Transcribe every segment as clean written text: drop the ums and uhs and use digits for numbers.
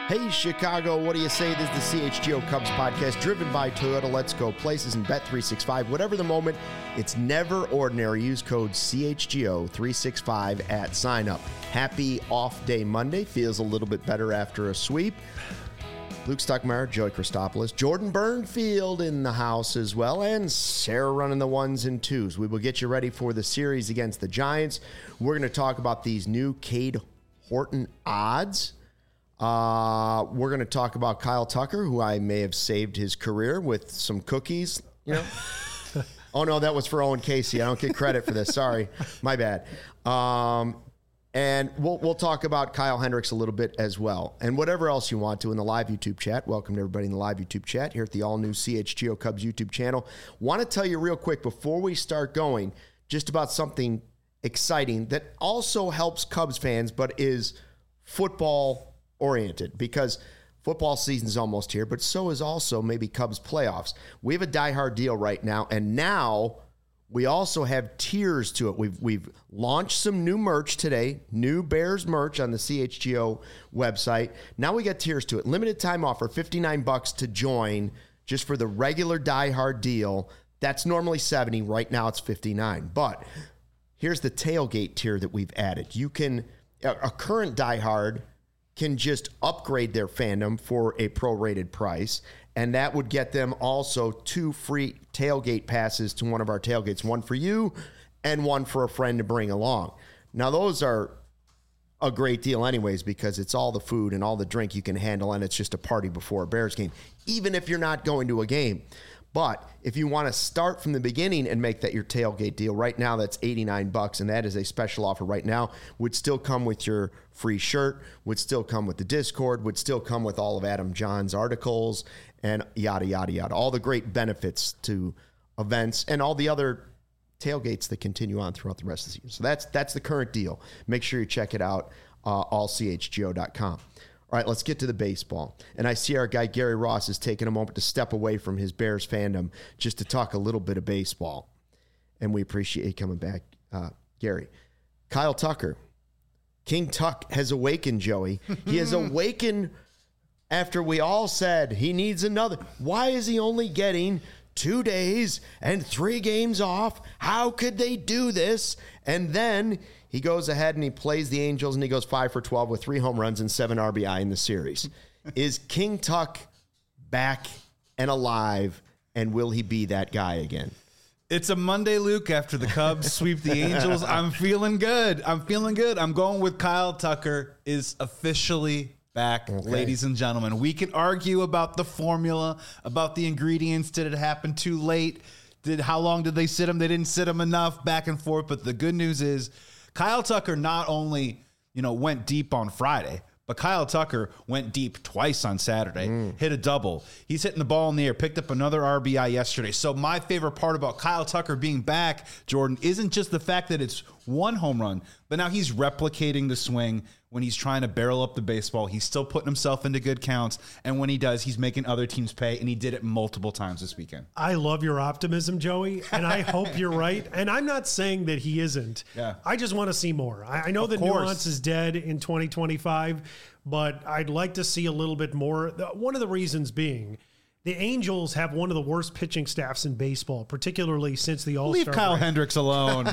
Hey, Chicago, what do you say? This is the CHGO Cubs podcast driven by Toyota. Let's go places and Bet365. Whatever the moment, it's never ordinary. Use code CHGO365 at sign up. Happy off day Monday. Feels a little bit better after a sweep. Luke Stuckmeyer, Joey Christopoulos, Jordan Burnfield in the house as well, and Sarah running the ones and twos. We will get you ready for the series against the Giants. We're going to talk about these new Cade Horton odds. We're going to talk about Kyle Tucker, who I may have saved his career with some cookies, you know. Oh, no, that was for Owen Casey. I don't get credit for this. Sorry. My bad. And we'll talk about Kyle Hendricks a little bit as well. And whatever else you want to in the live YouTube chat. Welcome to everybody in the live YouTube chat here at the all-new CHGO Cubs YouTube channel. Want to tell you real quick before we start going just about something exciting that also helps Cubs fans but is football-oriented, because football season is almost here, but so is also maybe Cubs playoffs. We have a diehard deal right now, and now we also have tiers to it. We've launched some new merch today, new Bears merch on the CHGO website. Now we got tiers to it. Limited time offer, $59 to join just for the regular diehard deal. That's normally $70. Right now it's $59. But here's the tailgate tier that we've added. You can, a current diehard can just upgrade their fandom for a prorated price, and that would get them also 2 free tailgate passes to one of our tailgates, one for you and one for a friend to bring along. Now, those are a great deal anyways, because it's all the food and all the drink you can handle, and it's just a party before a Bears game, even if you're not going to a game. But if you want to start from the beginning and make that your tailgate deal, right now that's $89, and that is a special offer right now. Would still come with your free shirt, would still come with the Discord, would still come with all of Adam John's articles, and yada, yada, yada. All the great benefits to events and all the other tailgates that continue on throughout the rest of the season. So that's the current deal. Make sure you check it out, allchgo.com. All right, let's get to the baseball. And I see our guy Gary Ross is taking a moment to step away from his Bears fandom just to talk a little bit of baseball. And we appreciate you coming back, Gary. Kyle Tucker. King Tuck has awakened, Joey. He has awakened after we all said he needs another. Why is he only getting 2 days and 3 games off? How could they do this? And then he goes ahead and he plays the Angels and he goes 5 for 12 with 3 home runs and 7 RBI in the series. Is King Tuck back and alive, and will he be that guy again? It's a Monday, Luke, after the Cubs sweep the Angels. I'm feeling good. I'm going with Kyle Tucker is officially back, okay. Ladies and gentlemen. We can argue about the formula, about the ingredients. Did it happen too late? How long did they sit him? They didn't sit him enough, back and forth. But the good news is Kyle Tucker not only, went deep on Friday, but Kyle Tucker went deep twice on Saturday, hit a double. He's hitting the ball in the air, picked up another RBI yesterday. So my favorite part about Kyle Tucker being back, Jordan, isn't just the fact that it's 1 home run, but now he's replicating the swing. When he's trying to barrel up the baseball, he's still putting himself into good counts. And when he does, he's making other teams pay. And he did it multiple times this weekend. I love your optimism, Joey. And I hope you're right. And I'm not saying that he isn't. Yeah. I just want to see more. I know the nuance is dead in 2025, but I'd like to see a little bit more. One of the reasons being, the Angels have one of the worst pitching staffs in baseball, particularly since the All-Star break. Leave Kyle Hendricks alone.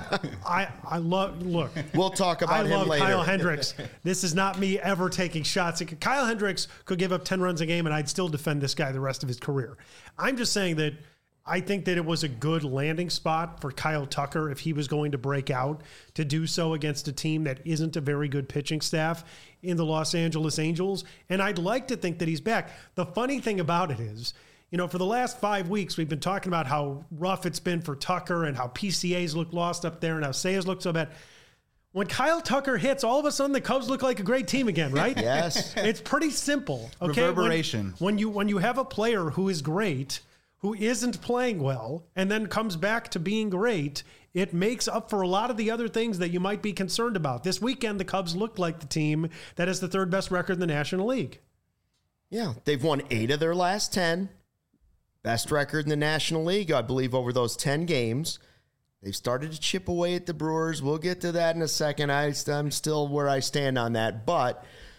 Look. We'll talk about him later. Kyle Hendricks. This is not me ever taking shots. Kyle Hendricks could give up 10 runs a game, and I'd still defend this guy the rest of his career. I'm just saying that I think that it was a good landing spot for Kyle Tucker if he was going to break out to do so against a team that isn't a very good pitching staff in the Los Angeles Angels. And I'd like to think that he's back. The funny thing about it is, for the last 5 weeks, we've been talking about how rough it's been for Tucker and how PCAs look lost up there and how Sayers look so bad. When Kyle Tucker hits, all of a sudden the Cubs look like a great team again, right? Yes. It's pretty simple. Okay? Reverberation. When you have a player who is great, who isn't playing well, and then comes back to being great, it makes up for a lot of the other things that you might be concerned about. This weekend, the Cubs looked like the team that has the 3rd best record in the National League. Yeah, they've won 8 of their last 10. Best record in the National League, I believe, over those 10 games. They've started to chip away at the Brewers. We'll get to that in a second. I'm still where I stand on that. But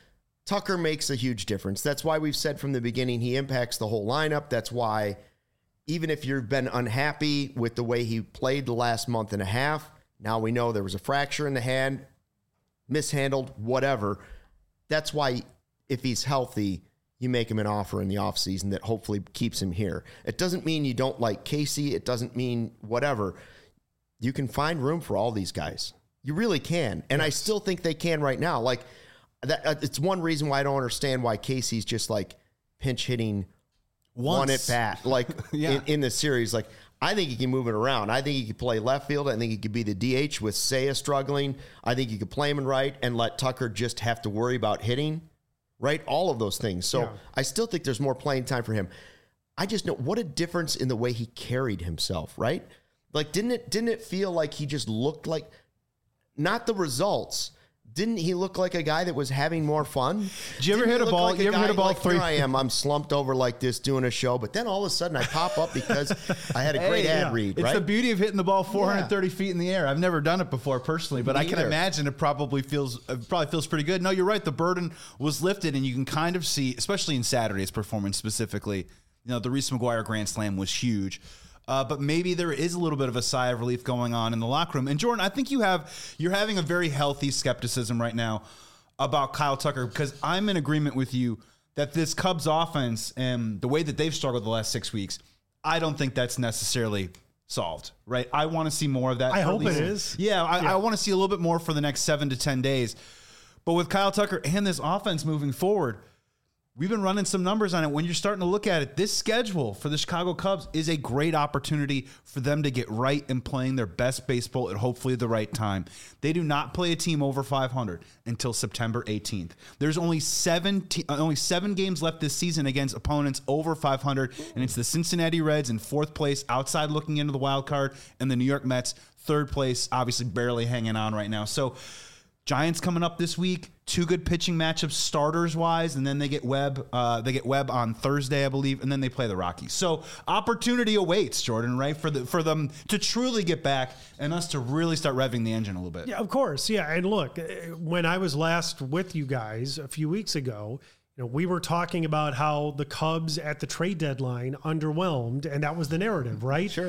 Tucker makes a huge difference. That's why we've said from the beginning he impacts the whole lineup. That's why even if you've been unhappy with the way he played the last month and a half, now we know there was a fracture in the hand, mishandled, whatever. That's why if he's healthy, you make him an offer in the offseason that hopefully keeps him here. It doesn't mean you don't like Casey. It doesn't mean whatever. You can find room for all these guys. You really can. And I still think they can right now. Like, that, it's one reason why I don't understand why Casey's just like pinch hitting one at bat, like in the series. Like, I think he can move it around. I think he could play left field. I think he could be the DH with Seiya struggling. I think you could play him in right and let Tucker just have to worry about hitting, right? All of those things. So I still think there's more playing time for him. I just know what a difference in the way he carried himself, right? Like, didn't it feel like he just looked like, not the results, didn't he look like a guy that was having more fun? Did you ever hit a ball? Like you ever hit a ball like, three? Here I am. I'm slumped over like this doing a show, but then all of a sudden I pop up because I had a great ad read. It's the beauty of hitting the ball 430 feet in the air. I've never done it before personally, but I can imagine it probably feels pretty good. No, you're right. The burden was lifted, and you can kind of see, especially in Saturday's performance specifically. You know, the Reese McGuire Grand Slam was huge. But maybe there is a little bit of a sigh of relief going on in the locker room. And Jordan, I think you're having a very healthy skepticism right now about Kyle Tucker, because I'm in agreement with you that this Cubs offense and the way that they've struggled the last 6 weeks, I don't think that's necessarily solved, right? I want to see more of that. I hope it is. Yeah, I want to see a little bit more for the next 7 to 10 days. But with Kyle Tucker and this offense moving forward, we've been running some numbers on it. When you're starting to look at it, this schedule for the Chicago Cubs is a great opportunity for them to get right and playing their best baseball at hopefully the right time. They do not play a team over 500 until September 18th. There's only 7 games left this season against opponents over 500, and it's the Cincinnati Reds in 4th place, outside looking into the wild card, and the New York Mets 3rd place, obviously barely hanging on right now. So Giants coming up this week, 2 good pitching matchups starters wise, and then they get Webb. They get Webb on Thursday, I believe, and then they play the Rockies. So opportunity awaits, Jordan, right, for them to truly get back and us to really start revving the engine a little bit. Yeah, of course. Yeah, and look, when I was last with you guys a few weeks ago, we were talking about how the Cubs at the trade deadline underwhelmed, and that was the narrative, right? Sure.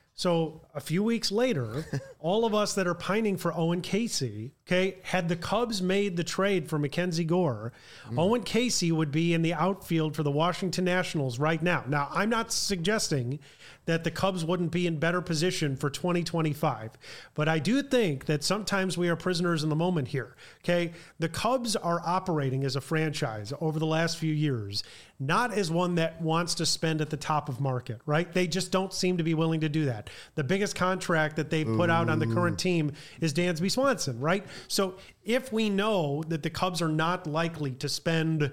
So a few weeks later, all of us that are pining for Owen Casey, had the Cubs made the trade for Mackenzie Gore, Owen Casey would be in the outfield for the Washington Nationals right now. Now, I'm not suggesting that the Cubs wouldn't be in better position for 2025, but I do think that sometimes we are prisoners in the moment here. The Cubs are operating as a franchise over the last few years, not as one that wants to spend at the top of market, right? They just don't seem to be willing to do that. The biggest contract that they've put out on the current team is Dansby Swanson, right? So if we know that the Cubs are not likely to spend,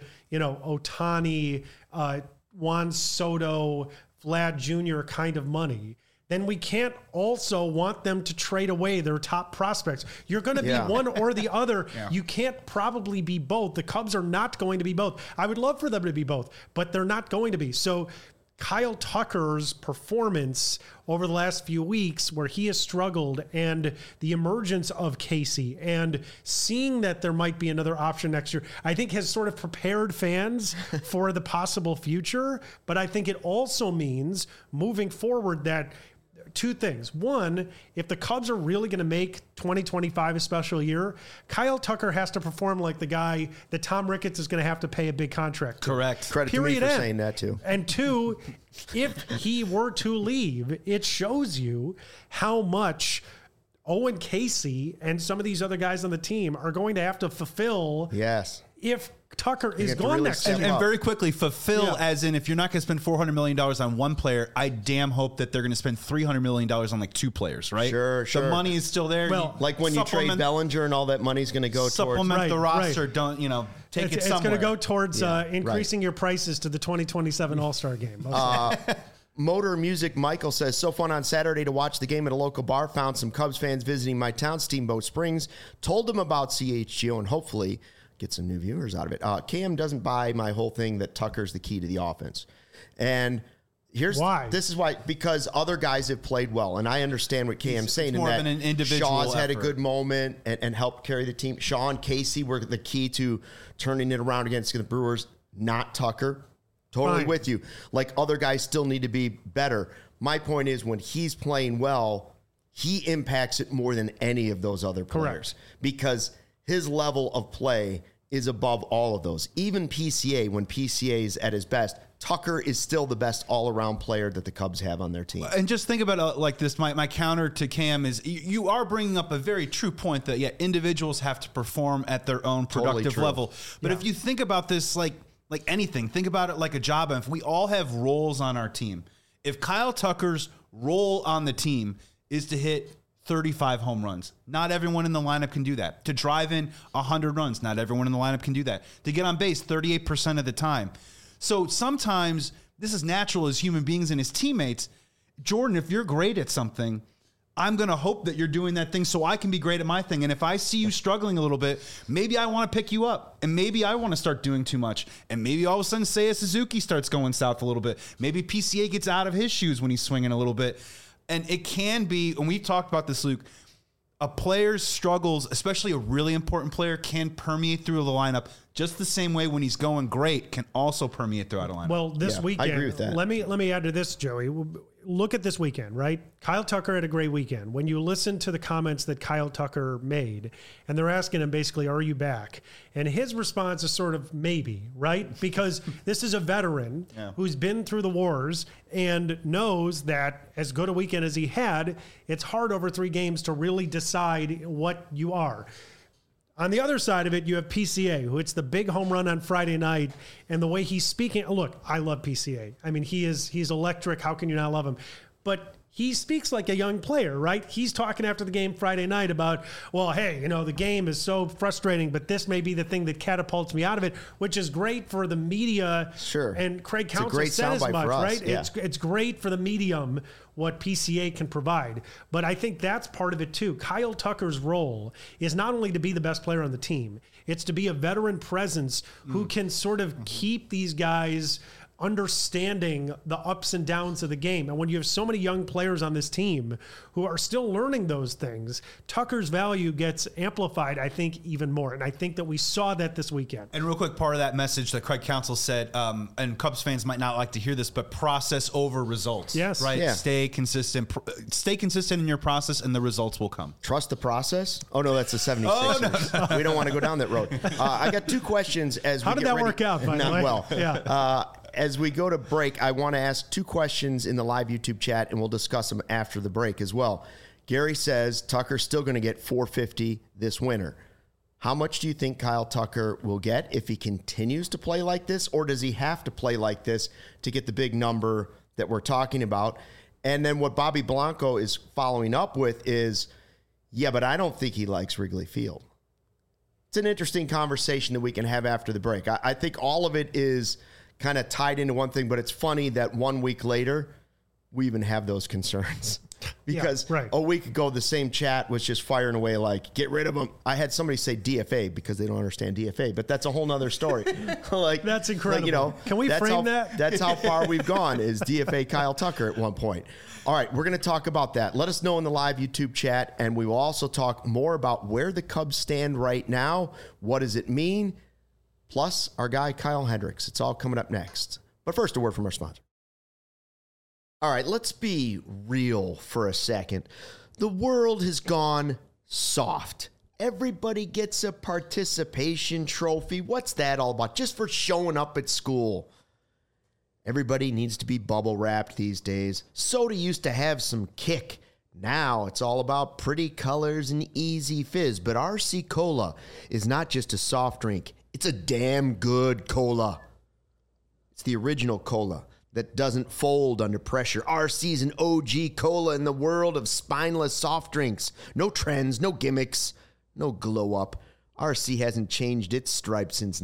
Ohtani, Juan Soto, Vlad Jr. kind of money, then we can't also want them to trade away their top prospects. You're going to be one or the other. You can't probably be both. The Cubs are not going to be both. I would love for them to be both, but they're not going to be. So Kyle Tucker's performance over the last few weeks, where he has struggled, and the emergence of Casey and seeing that there might be another option next year, I think has sort of prepared fans for the possible future. But I think it also means moving forward that 2 things. One, if the Cubs are really going to make 2025 a special year, Kyle Tucker has to perform like the guy that Tom Ricketts is going to have to pay a big contract to. Correct. Credit Period to me for saying that too. And 2, if he were to leave, it shows you how much Owen Casey and some of these other guys on the team are going to have to fulfill. Yes. If Tucker is gone next year. And very quickly, fulfill as in, if you're not going to spend $400 million on one player, I damn hope that they're going to spend $300 million on like 2 players, right? Sure. The money is still there. Well, like when you trade Bellinger and all that money's going to go supplement the roster. Right. Don't, take it somewhere. It's going to go towards increasing your prices to the 2027 All-Star game. Motor Music Michael says, so fun on Saturday to watch the game at a local bar. Found some Cubs fans visiting my town, Steamboat Springs. Told them about CHGO and hopefully get some new viewers out of it. Cam doesn't buy my whole thing that Tucker's the key to the offense. And Why? This is why, because other guys have played well, and I understand what Cam's saying. more in of that an individual Shaw's had a effort. good moment and helped carry the team. Shaw and Casey were the key to turning it around against the Brewers, not Tucker. Totally Fine. with you. Like, other guys still need to be better. My point is, when he's playing well, he impacts it more than any of those other players because his level of play is above all of those. Even PCA, when PCA is at his best, Tucker is still the best all-around player that the Cubs have on their team. And just think about it like this. My counter to Cam is you are bringing up a very true point that, individuals have to perform at their own productive true. level. But if you think about this like anything, think about it like a job. And if we all have roles on our team, if Kyle Tucker's role on the team is to hit 35 home runs, not everyone in the lineup can do that. To drive in 100 runs, not everyone in the lineup can do that. To get on base 38% of the time. So sometimes this is natural as human beings and as teammates. Jordan, if you're great at something, I'm going to hope that you're doing that thing so I can be great at my thing. And if I see you struggling a little bit, maybe I want to pick you up. And maybe I want to start doing too much. And maybe all of a sudden Seiya Suzuki starts going south a little bit. Maybe PCA gets out of his shoes when he's swinging a little bit. And it can be, and we've talked about this, Luke, a player's struggles, especially a really important player, can permeate through the lineup just the same way when he's going great can also permeate throughout a lineup. Well, this weekend, I agree with that. Let me add to this, Joey. Look at this weekend, right? Kyle Tucker had a great weekend. When you listen to the comments that Kyle Tucker made, and they're asking him basically, are you back? And his response is sort of maybe, right? Because this is a veteran who's been through the wars and knows that as good a weekend as he had, it's hard over 3 games to really decide what you are. On the other side of it, you have PCA, who hits the big home run on Friday night, and the way he's speaking. Look, I love PCA. I mean, he's electric. How can you not love him? But he speaks like a young player, right? He's talking after the game Friday night about, well, hey, the game is so frustrating, but this may be the thing that catapults me out of it, which is great for the media. Sure. And Craig It's a Counsell great said as soundbite much, for us, right? yeah. It's great for the medium what PCA can provide. But I think that's part of it too. Kyle Tucker's role is not only to be the best player on the team, it's to be a veteran presence who can sort of keep these guys understanding the ups and downs of the game. And when you have so many young players on this team who are still learning those things, Tucker's value gets amplified, I think, even more. And I think that we saw that this weekend. And real quick, part of that message that Craig Counsell said, and Cubs fans might not like to hear this, but process over results. Yes. Right? Yeah. Stay consistent. Stay consistent in your process, and the results will come. Trust the process? Oh, no, that's the 76ers. No. We don't want to go down that road. I got 2 questions as we How did get that ready. work out, by the Not way? well. Yeah. As we go to break, I want to ask 2 questions in the live YouTube chat, and we'll discuss them after the break as well. Gary says Tucker's still going to get $450 this winter. How much do you think Kyle Tucker will get if he continues to play like this, or does he have to play like this to get the big number that we're talking about? And then what Bobby Blanco is following up with is, yeah, but I don't think he likes Wrigley Field. It's an interesting conversation that we can have after the break. I think all of it is kind of tied into one thing, but it's funny that 1 week later, we even have those concerns. Because right. a week ago, the same chat was just firing away like, get rid of him. I had somebody say DFA because they don't understand DFA, but that's a whole nother story. Like, That's incredible. Can we frame that? That's how far we've gone, is DFA Kyle Tucker at one point. All right, we're going to talk about that. Let us know in the live YouTube chat, and we will also talk more about where the Cubs stand right now. What does it mean? Plus, our guy, Kyle Hendricks. It's all coming up next. But first, a word from our sponsor. All right, let's be real for a second. The world has gone soft. Everybody gets a participation trophy. What's that all about? Just for showing up at school. Everybody needs to be bubble wrapped these days. Soda used to have some kick. Now it's all about pretty colors and easy fizz. But RC Cola is not just a soft drink. It's a damn good cola. It's the original cola that doesn't fold under pressure. RC's an OG cola in the world of spineless soft drinks. No trends, no gimmicks, no glow up. RC hasn't changed its stripes since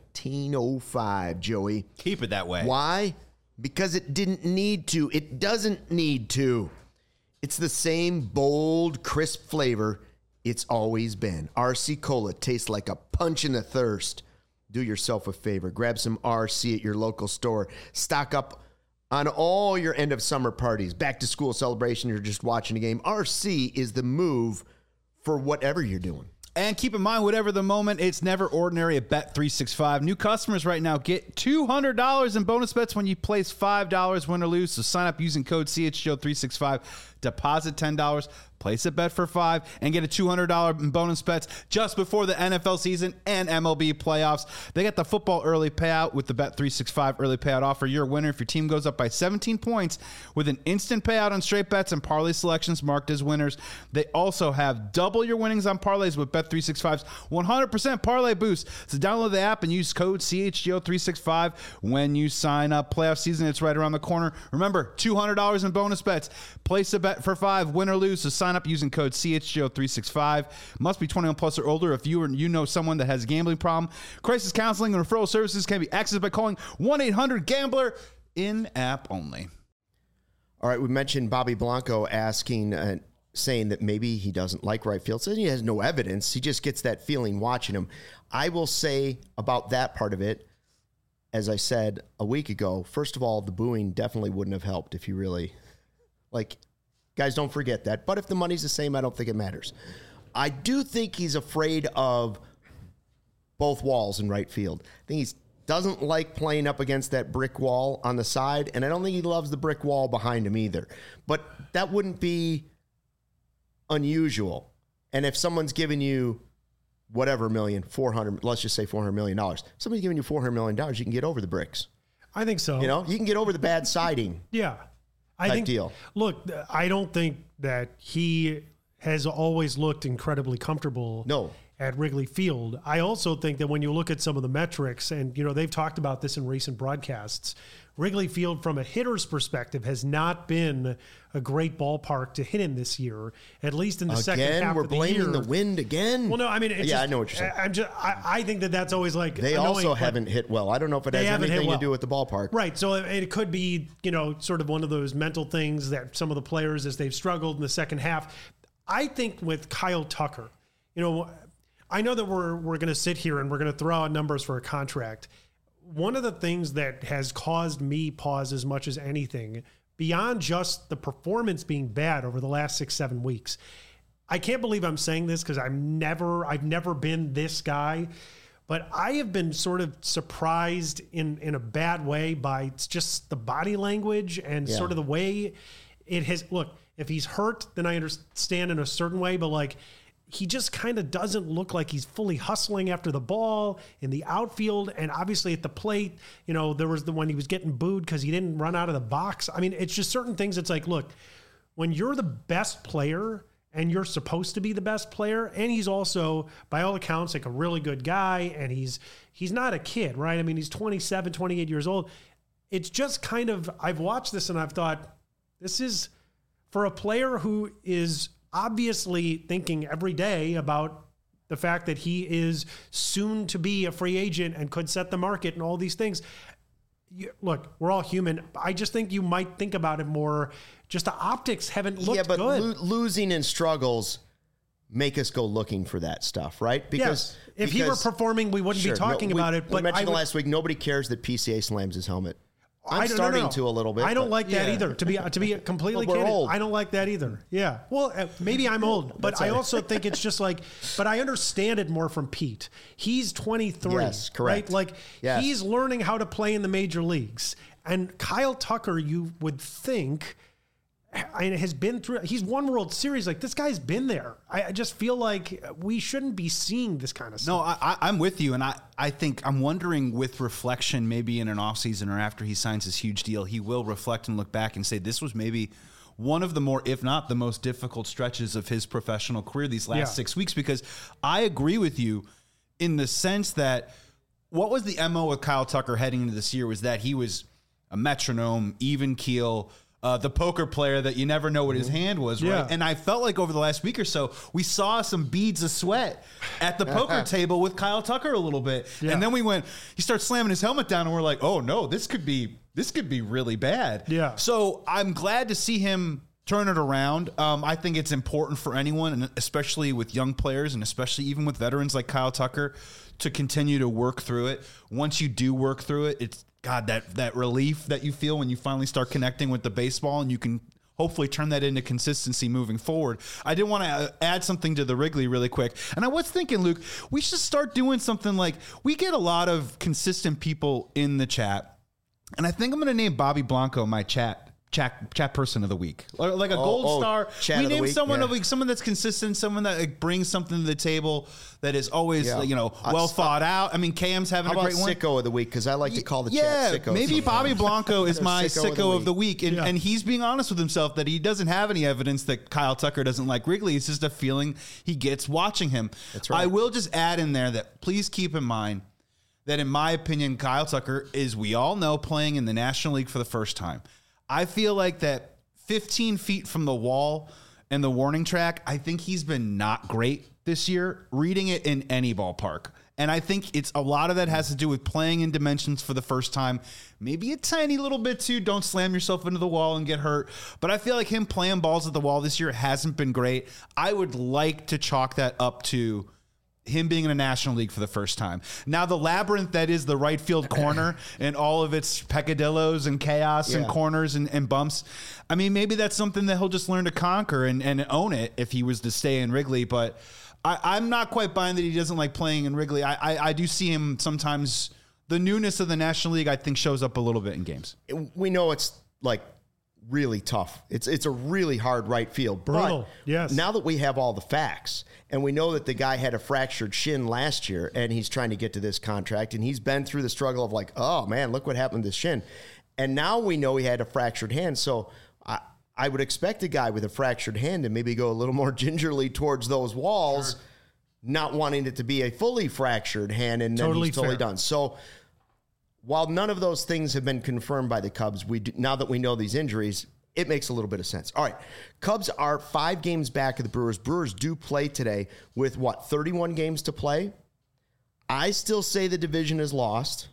1905, Joey. Keep it that way. Why? Because it didn't need to. It doesn't need to. It's the same bold, crisp flavor it's always been. RC Cola tastes like a punch in the thirst. Do yourself a favor. Grab some RC at your local store. Stock up On all your end of summer parties, back to school celebration, you're just watching a game, RC is the move for whatever you're doing. And keep in mind, whatever the moment, it's never ordinary at Bet365. New customers right now get $200 in bonus bets when you place $5 win or lose. So sign up using code CHGO365. Deposit $10, place a bet for $5, and get a $200 in bonus bets just before the NFL season and MLB playoffs. They got the football early payout with the Bet365 early payout offer. You're a winner if your team goes up by 17 points with an instant payout on straight bets and parlay selections marked as winners. They also have double your winnings on parlays with Bet365's 100% parlay boost. So download the app and use code CHGO365 when you sign up. Playoff season, it's right around the corner. Remember, $200 in bonus bets. Place a bet for $5, win or lose. So sign up using code CHGO365. Must be 21 plus or older. If you know someone that has a gambling problem, crisis counseling and referral services can be accessed by calling 1-800-GAMBLER, in-app only. All right, we mentioned Bobby Blanco asking, saying that maybe he doesn't like right field. So he has no evidence. He just gets that feeling watching him. I will say about that part of it, as I said a week ago, first of all, the booing definitely wouldn't have helped if you really, guys, don't forget that. But if the money's the same, I don't think it matters. I do think he's afraid of both walls in right field. I think he doesn't like playing up against that brick wall on the side, and I don't think he loves the brick wall behind him either. But that wouldn't be unusual. And if someone's giving you whatever let's just say $400 million. Somebody's giving you $400 million, you can get over the bricks. I think so. You can get over the bad siding. Yeah. I think, deal. Look, I don't think that he has always looked incredibly comfortable at Wrigley Field. I also think that when you look at some of the metrics, and they've talked about this in recent broadcasts, Wrigley Field from a hitter's perspective has not been a great ballpark to hit in this year, at least in the second half of the year. We're blaming the wind again? Well, no, I mean, I know what you're saying. I think that's always like they annoying, also haven't hit well. I don't know if it has anything to do with the ballpark. Right. So it could be, sort of one of those mental things that some of the players, as they've struggled in the second half. I think with Kyle Tucker, I know that we're going to sit here and we're going to throw out numbers for a contract. One of the things that has caused me pause as much as anything, beyond just the performance being bad over the last 6-7 weeks, I can't believe I'm saying this because I've never been this guy, but I have been sort of surprised in a bad way by just the body language and sort of the way it has. Look, if he's hurt, then I understand in a certain way, but he just kind of doesn't look like he's fully hustling after the ball in the outfield. And obviously at the plate, there was the one he was getting booed because he didn't run out of the box. I mean, it's just certain things. It's like, look, when you're the best player and you're supposed to be the best player, and he's also, by all accounts, like a really good guy, and he's not a kid, right? I mean, he's 27, 28 years old. It's just kind of, I've watched this and I've thought, this is for a player who is obviously thinking every day about the fact that he is soon to be a free agent and could set the market and all these things. Look, we're all human. I just think you might think about it more. Just the optics haven't looked good. Yeah, but losing in struggles make us go looking for that stuff, right? Because if he were performing, we wouldn't be talking about it. But we mentioned last week, nobody cares that PCA slams his helmet. I'm starting to a little bit. I don't like that either. To be completely candid, old. I don't like that either. Yeah. Well, maybe I'm old, but I also think it's just but I understand it more from Pete. He's 23. Yes, correct. Right? He's learning how to play in the major leagues. And Kyle Tucker, you would think, has been through, he's won World Series. This guy's been there. I just feel like we shouldn't be seeing this kind of stuff. No, I'm with you. And I think I'm wondering, with reflection, maybe in an offseason or after he signs his huge deal, he will reflect and look back and say, this was maybe one of the more, if not the most difficult stretches of his professional career these last 6 weeks. Because I agree with you in the sense that what was the MO with Kyle Tucker heading into this year was that he was a metronome, even keel, the poker player that you never know what his hand was, right? Yeah. And I felt like over the last week or so, we saw some beads of sweat at the poker table with Kyle Tucker a little bit. Yeah. And then he starts slamming his helmet down and we're like, oh no, this could be really bad. Yeah. So I'm glad to see him turn it around. I think it's important for anyone, and especially with young players and especially even with veterans like Kyle Tucker, to continue to work through it. Once you do work through it, God, that relief that you feel when you finally start connecting with the baseball, and you can hopefully turn that into consistency moving forward. I did want to add something to the Wrigley really quick. And I was thinking, Luke, we should start doing something like, we get a lot of consistent people in the chat. And I think I'm going to name Bobby Blanco my chat person of the week, like a gold star. We name someone of the week, someone that's consistent, someone that like, brings something to the table that is always well thought out. I mean, KM's having a great one. Sicko of the week, because I like to call the chat sicko. Maybe sometimes. Bobby Blanco is my sicko of the week, and he's being honest with himself that he doesn't have any evidence that Kyle Tucker doesn't like Wrigley. It's just a feeling he gets watching him. That's right. I will just add in there that please keep in mind that, in my opinion, Kyle Tucker is, we all know, playing in the National League for the first time. I feel like that 15 feet from the wall and the warning track, I think he's been not great this year, reading it in any ballpark. And I think it's a lot of that has to do with playing in dimensions for the first time. Maybe a tiny little bit too. Don't slam yourself into the wall and get hurt. But I feel like him playing balls at the wall this year hasn't been great. I would like to chalk that up to him being in a National League for the first time. Now, the labyrinth that is the right field corner and all of its peccadillos and chaos and corners and bumps, I mean, maybe that's something that he'll just learn to conquer and own it if he was to stay in Wrigley. But I'm not quite buying that he doesn't like playing in Wrigley. I do see him sometimes. The newness of the National League, I think, shows up a little bit in games. We know it's like really tough. It's a really hard right field. Brutal. But yes. Now that we have all the facts, and we know that the guy had a fractured shin last year, and he's trying to get to this contract, and he's been through the struggle of like, oh man, look what happened to this shin. And now we know he had a fractured hand. So I would expect a guy with a fractured hand to maybe go a little more gingerly towards those walls, not wanting it to be a fully fractured hand, and then he's totally done. So while none of those things have been confirmed by the Cubs, now that we know these injuries, it makes a little bit of sense. All right, Cubs are 5 games back of the Brewers. Brewers do play today with, 31 games to play? I still say the division is lost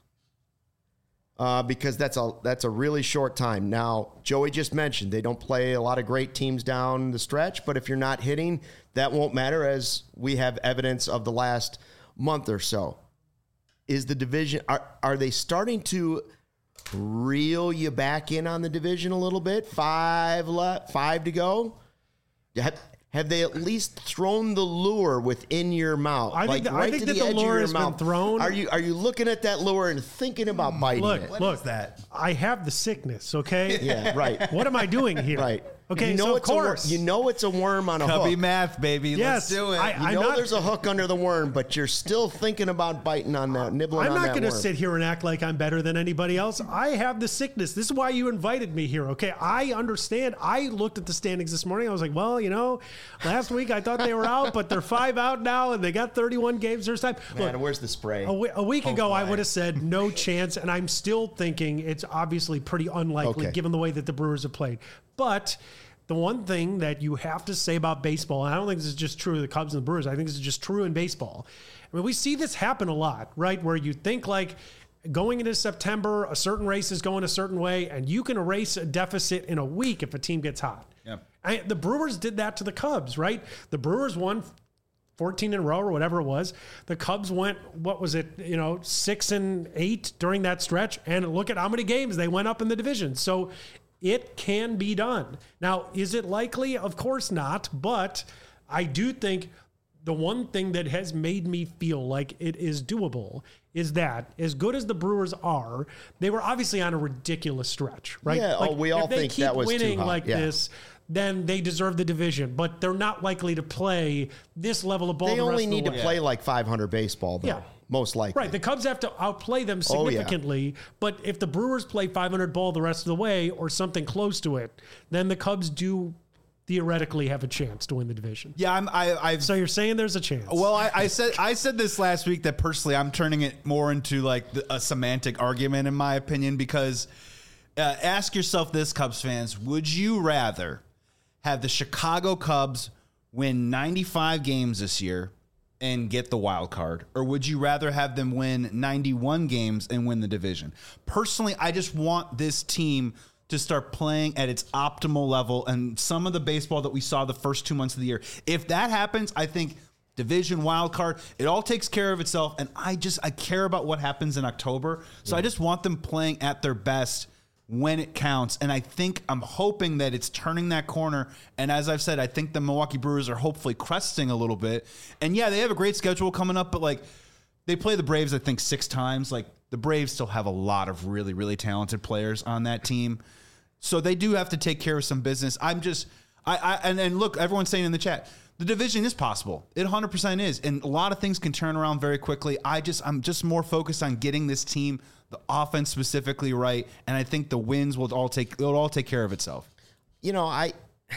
because that's a really short time. Now, Joey just mentioned they don't play a lot of great teams down the stretch, but if you're not hitting, that won't matter, as we have evidence of the last month or so. Is the division, are they starting to reel you back in on the division a little bit? 5 to go? Have they at least thrown the lure within your mouth? I think that the lure has been thrown. Are you looking at that lure and thinking about biting it? What is that? I have the sickness, okay? Yeah, right. What am I doing here? Right. Okay, so of course. You know it's a worm on a Cubby hook. math, baby. Yes, Let's do it. You know there's a hook under the worm, but you're still thinking about biting on that, nibbling on that worm. I'm not going to sit here and act like I'm better than anybody else. I have the sickness. This is why you invited me here, okay? I understand. I looked at the standings this morning. I was like, well, last week I thought they were out, but they're 5 out now, and they got 31 games this time. Man, look, where's the spray? A week ago, I would have said no chance, and I'm still thinking it's obviously pretty unlikely given the way that the Brewers have played. But the one thing that you have to say about baseball, and I don't think this is just true of the Cubs and the Brewers, I think this is just true in baseball. I mean, we see this happen a lot, right? Where you think like going into September, a certain race is going a certain way, and you can erase a deficit in a week if a team gets hot. Yeah. The Brewers did that to the Cubs, right? The Brewers won 14 in a row or whatever it was. The Cubs went, 6 and 8 during that stretch, and look at how many games they went up in the division. So it can be done. Now, is it likely? Of course not. But I do think the one thing that has made me feel like it is doable is that as good as the Brewers are, they were obviously on a ridiculous stretch, right? Yeah, we all think that was too hot. If they keep winning like this, then they deserve the division. But they're not likely to play this level of ball. They only need to play like 500 baseball, though. Yeah. Most likely. Right. The Cubs have to outplay them significantly. But if the Brewers play 500 ball the rest of the way or something close to it, then the Cubs do theoretically have a chance to win the division. Yeah, so you're saying there's a chance. Well, I said this last week that personally I'm turning it more into like a semantic argument in my opinion, because ask yourself this, Cubs fans, would you rather have the Chicago Cubs win 95 games this year and get the wild card, or would you rather have them win 91 games and win the division? Personally, I just want this team to start playing at its optimal level and some of the baseball that we saw the first 2 months of the year. If that happens, I think division, wild card. It all takes care of itself, and I care about what happens in October. So I just want them playing at their best when it counts, and I'm hoping that it's turning that corner. And as I've said, I think the Milwaukee Brewers are hopefully cresting a little bit. And yeah, they have a great schedule coming up, but like they play the Braves, I think 6 times. Like the Braves still have a lot of really, really talented players on that team, so they do have to take care of some business. And look, everyone's saying in the chat, the division is possible. It 100% is, and a lot of things can turn around very quickly. I'm just more focused on getting this team, the offense specifically, right, and I think the wins will all take care of itself. You know, I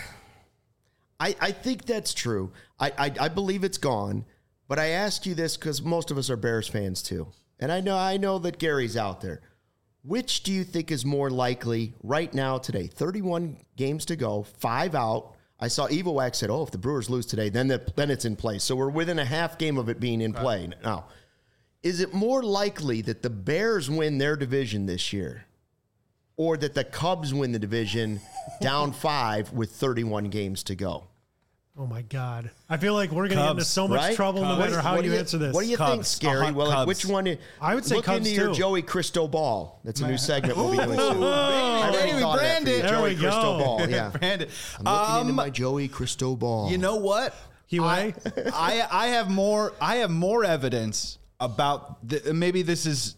think that's true. I believe it's gone, but I ask you this because most of us are Bears fans too, and I know that Gary's out there. Which do you think is more likely right now today? 31 games to go, 5 out. I saw Evowax said, if the Brewers lose today, then it's in play. So we're within a half game of it being in play. Now, is it more likely that the Bears win their division this year or that the Cubs win the division down 5 with 31 games to go? Oh, my God. I feel like we're going to get into so much right? trouble no matter how you answer this. What do you think, Scary? Well, like, which one? I would say look Cubs into your too. Joey Cristobal. That's a new segment we'll be doing soon. I already Baby, thought of that brand for you. it. There Joey we go. Cristobal, yeah. Brandon, I'm looking into my Joey Cristobal. you know what? Huey? I have more evidence about maybe this is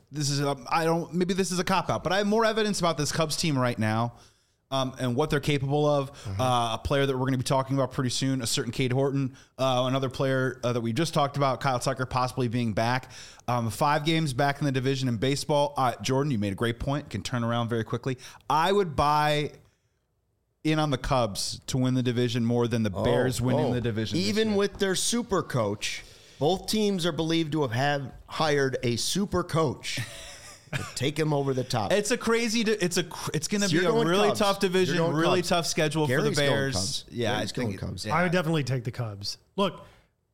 maybe this is a cop out, but I have more evidence about this Cubs team right now. And what they're capable of. A player that we're going to be talking about pretty soon, a certain Cade Horton, another player that we just talked about, Kyle Tucker, possibly being back. 5 games back in the division in baseball. Jordan, you made a great point. Can turn around very quickly. I would buy in on the Cubs to win the division more than the Bears winning the division. Even with their super coach, both teams are believed to have hired a super coach. Take him over the top. It's a crazy. It's going to be a really Cubs. tough division, really Cubs. tough schedule Gary's for the going Bears. Cubs. Yeah, Gary's I think going Cubs. I would definitely take the Cubs. Look,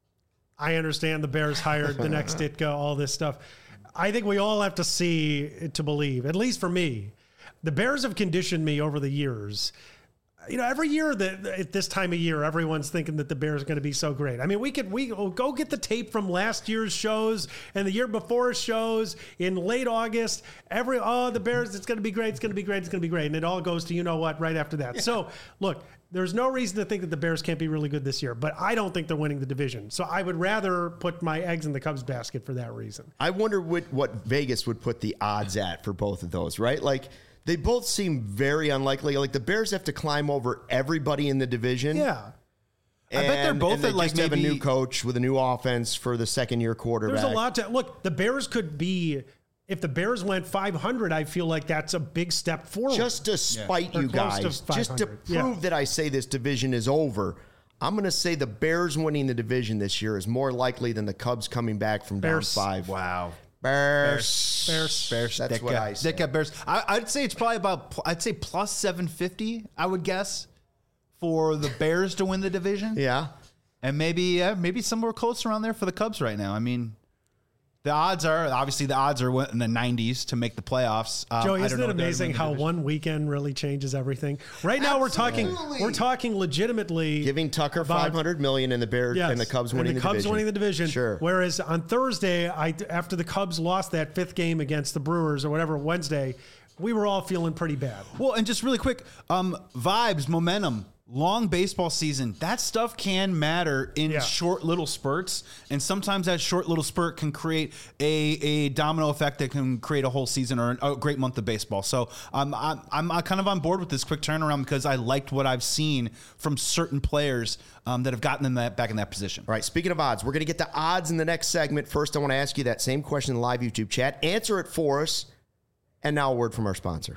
I understand the Bears hired the next Ditka, all this stuff. I think we all have to see it to believe, at least for me. The Bears have conditioned me over the years. You know, every year at this time of year, everyone's thinking that the Bears are going to be so great. I mean, we go get the tape from last year's shows and the year before's shows in late August. The Bears, it's going to be great, it's going to be great, it's going to be great. And it all goes to, you know what, right after that. Yeah. So, look, there's no reason to think that the Bears can't be really good this year, but I don't think they're winning the division. So I would rather put my eggs in the Cubs basket for that reason. I wonder what Vegas would put the odds at for both of those, right? Like, they both seem very unlikely. Like the Bears have to climb over everybody in the division. Yeah. I bet they're both at like have a maybe new coach with a new offense for the second-year quarterback. There's a lot to look. The Bears could be. If the Bears went 500, I feel like that's a big step forward. Just to spite Or you close to guys, just to 500. prove that I say this division is over, I'm going to say the Bears winning the division this year is more likely than the Cubs coming back from Bears. down 5. wow. Bears. That's what I say. Bears. I'd say it's probably I'd say plus 750, I would guess, for the Bears to win the division. Yeah. And maybe somewhere close around there for the Cubs right now. I mean, the odds are in the 90s to make the playoffs. Joey, isn't it amazing how one weekend really changes everything? Right now, we're talking legitimately Giving Tucker $500 million and the Bears and the Cubs winning the division. Cubs winning the division. Sure. Whereas on Thursday, after the Cubs lost that 5th game against the Brewers or whatever Wednesday, we were all feeling pretty bad. Well, and just really quick, vibes, momentum. Long baseball season, that stuff can matter in short little spurts, and sometimes that short little spurt can create a domino effect that can create a whole season or a great month of baseball. So I'm kind of on board with this quick turnaround because I liked what I've seen from certain players that have gotten them back in that position. All right, speaking of odds, we're going to get to odds in the next segment. First, I want to ask you that same question in the live YouTube chat. Answer it for us, and now a word from our sponsor.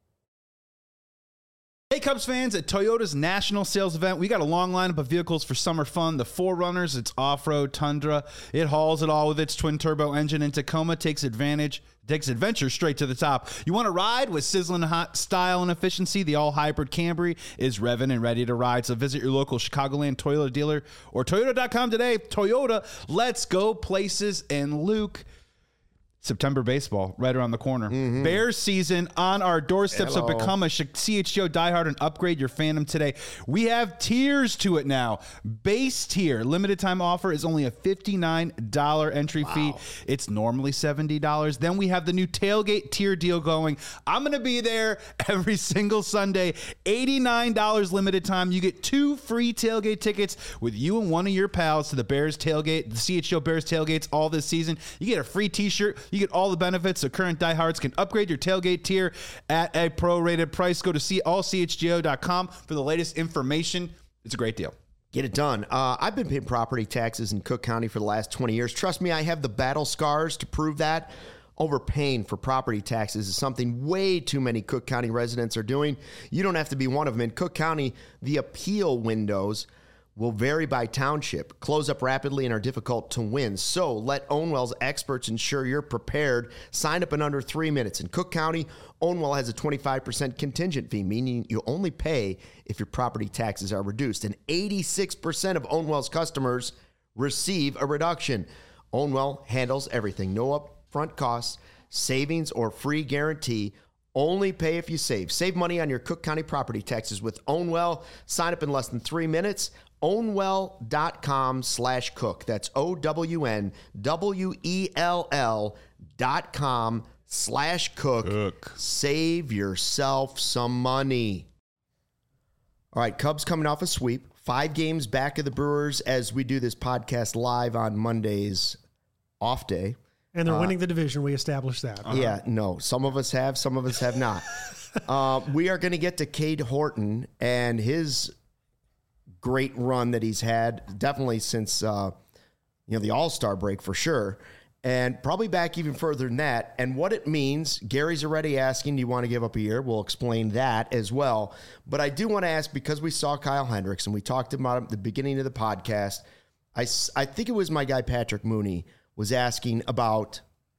Hey Cubs fans, at Toyota's national sales event, we got a long lineup of vehicles for summer fun. The 4Runners, its off-road Tundra. It hauls it all with its twin-turbo engine, and Tacoma takes adventure straight to the top. You want to ride with sizzling hot style and efficiency? The all-hybrid Camry is revving and ready to ride. So visit your local Chicagoland Toyota dealer or Toyota.com today. Toyota, let's go places. And Luke, September baseball right around the corner. Bears season on our doorstep. So become a CHGO diehard and upgrade your fandom today. We have tiers to it now. Base tier limited time offer is only a $59 entry fee. It's normally $70. Then we have the new tailgate tier deal going. I'm going to be there every single Sunday. $89 limited time. You get 2 free tailgate tickets with you and one of your pals to the Bears tailgate, the CHGO Bears tailgates all this season. You get a free t-shirt. You get all the benefits so current diehards can upgrade your tailgate tier at a prorated price. Go to allchgo.com for the latest information. It's a great deal. Get it done. I've been paying property taxes in Cook County for the last 20 years. Trust me, I have the battle scars to prove that. Overpaying for property taxes is something way too many Cook County residents are doing. You don't have to be one of them. In Cook County, the appeal windows will vary by township, close up rapidly, and are difficult to win. So let Ownwell's experts ensure you're prepared. Sign up in under 3 minutes. In Cook County, Ownwell has a 25% contingent fee, meaning you only pay if your property taxes are reduced. And 86% of Ownwell's customers receive a reduction. Ownwell handles everything. No upfront costs, savings, or free guarantee. Only pay if you save. Save money on your Cook County property taxes with Ownwell. Sign up in less than 3 minutes. Ownwell.com/cook. That's OWNWELL.com/cook. Save yourself some money. All right, Cubs coming off a sweep. 5 games back of the Brewers as we do this podcast live on Monday's off day. And they're winning the division. We established that. Yeah, no. Some of us have, some of us have not. We are going to get to Cade Horton and his great run that he's had, definitely since the All-Star break for sure, and probably back even further than that. And what it means, Gary's already asking, do you want to give up a year? We'll explain that as well. But I do want to ask, because we saw Kyle Hendricks and we talked about him at the beginning of the podcast, I think it was my guy Patrick Mooney was asking about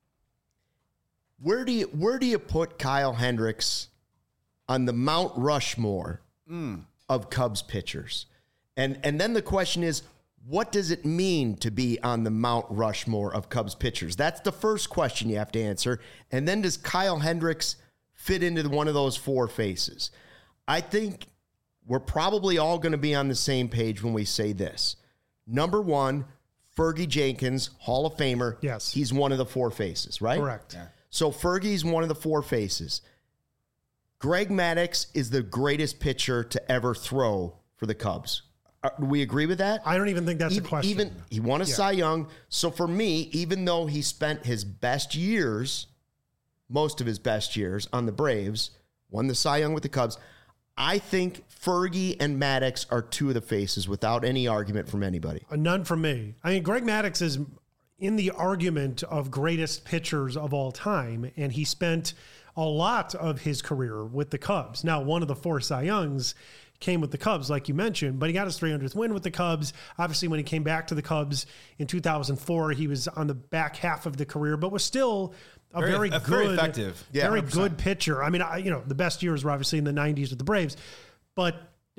where do you put Kyle Hendricks on the Mount Rushmore of Cubs pitchers? And then the question is, what does it mean to be on the Mount Rushmore of Cubs pitchers? That's the first question you have to answer. And then does Kyle Hendricks fit into one of those 4 faces? I think we're probably all going to be on the same page when we say this. Number 1, Fergie Jenkins, Hall of Famer. Yes. He's one of the 4 faces, right? Correct. Yeah. So Fergie's one of the 4 faces. Greg Maddux is the greatest pitcher to ever throw for the Cubs. Do we agree with that? I don't even think that's a question. He won a Cy Young. So for me, even though he spent his best years, most of his best years on the Braves, won the Cy Young with the Cubs, I think Fergie and Maddux are 2 of the faces without any argument from anybody. None from me. I mean, Greg Maddux is in the argument of greatest pitchers of all time, and he spent a lot of his career with the Cubs. Now, one of the 4 Cy Youngs came with the Cubs, like you mentioned, but he got his 300th win with the Cubs. Obviously, when he came back to the Cubs in 2004, he was on the back half of the career, but was still very effective, very good pitcher. I mean, the best years were obviously in the 90s with the Braves, but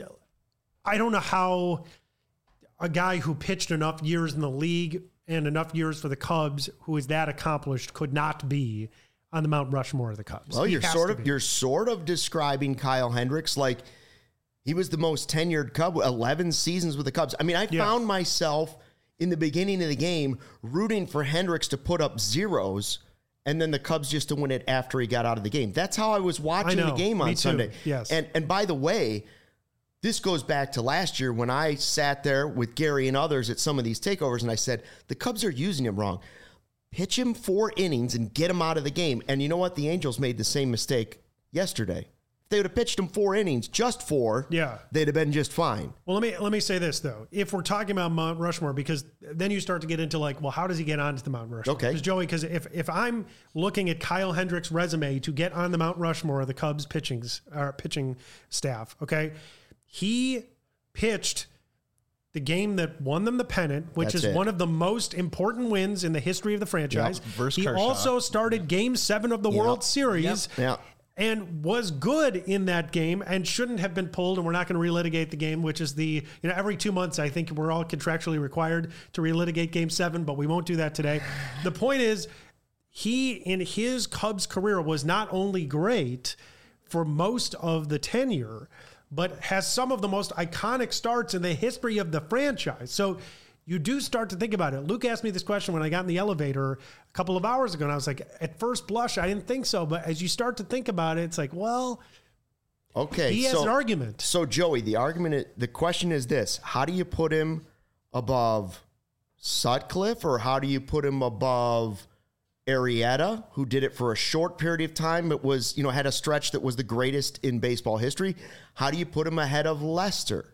I don't know how a guy who pitched enough years in the league and enough years for the Cubs, who is that accomplished, could not be on the Mount Rushmore of the Cubs. Well, you're sort of describing Kyle Hendricks like he was the most tenured Cub, 11 seasons with the Cubs. I mean, I found myself in the beginning of the game rooting for Hendricks to put up zeros and then the Cubs just to win it after he got out of the game. That's how I was watching the game on Sunday. Yes. And by the way, this goes back to last year when I sat there with Gary and others at some of these takeovers and I said, the Cubs are using him wrong. Pitch him 4 innings and get him out of the game. And you know what? The Angels made the same mistake yesterday. If they would have pitched him 4 innings, just 4, they'd have been just fine. Well, let me say this, though. If we're talking about Mount Rushmore, because then you start to get into like, well, how does he get onto the Mount Rushmore? Okay. Because if I'm looking at Kyle Hendricks' resume to get on the Mount Rushmore of the Cubs pitching staff, okay, he pitched the game that won them the pennant, which is one of the most important wins in the history of the franchise. He also started Game 7 of the World Series. And was good in that game and shouldn't have been pulled. And we're not going to relitigate the game, which is every 2 months, I think we're all contractually required to relitigate Game 7, but we won't do that today. The point is, he, in his Cubs career, was not only great for most of the tenure, but has some of the most iconic starts in the history of the franchise. So you do start to think about it. Luke asked me this question when I got in the elevator a couple of hours ago, and I was like, at first blush, I didn't think so. But as you start to think about it, it's like, well, okay, he has an argument. So, Joey, the question is this: how do you put him above Sutcliffe, or how do you put him above Arrieta, who did it for a short period of time, but was, had a stretch that was the greatest in baseball history? How do you put him ahead of Lester?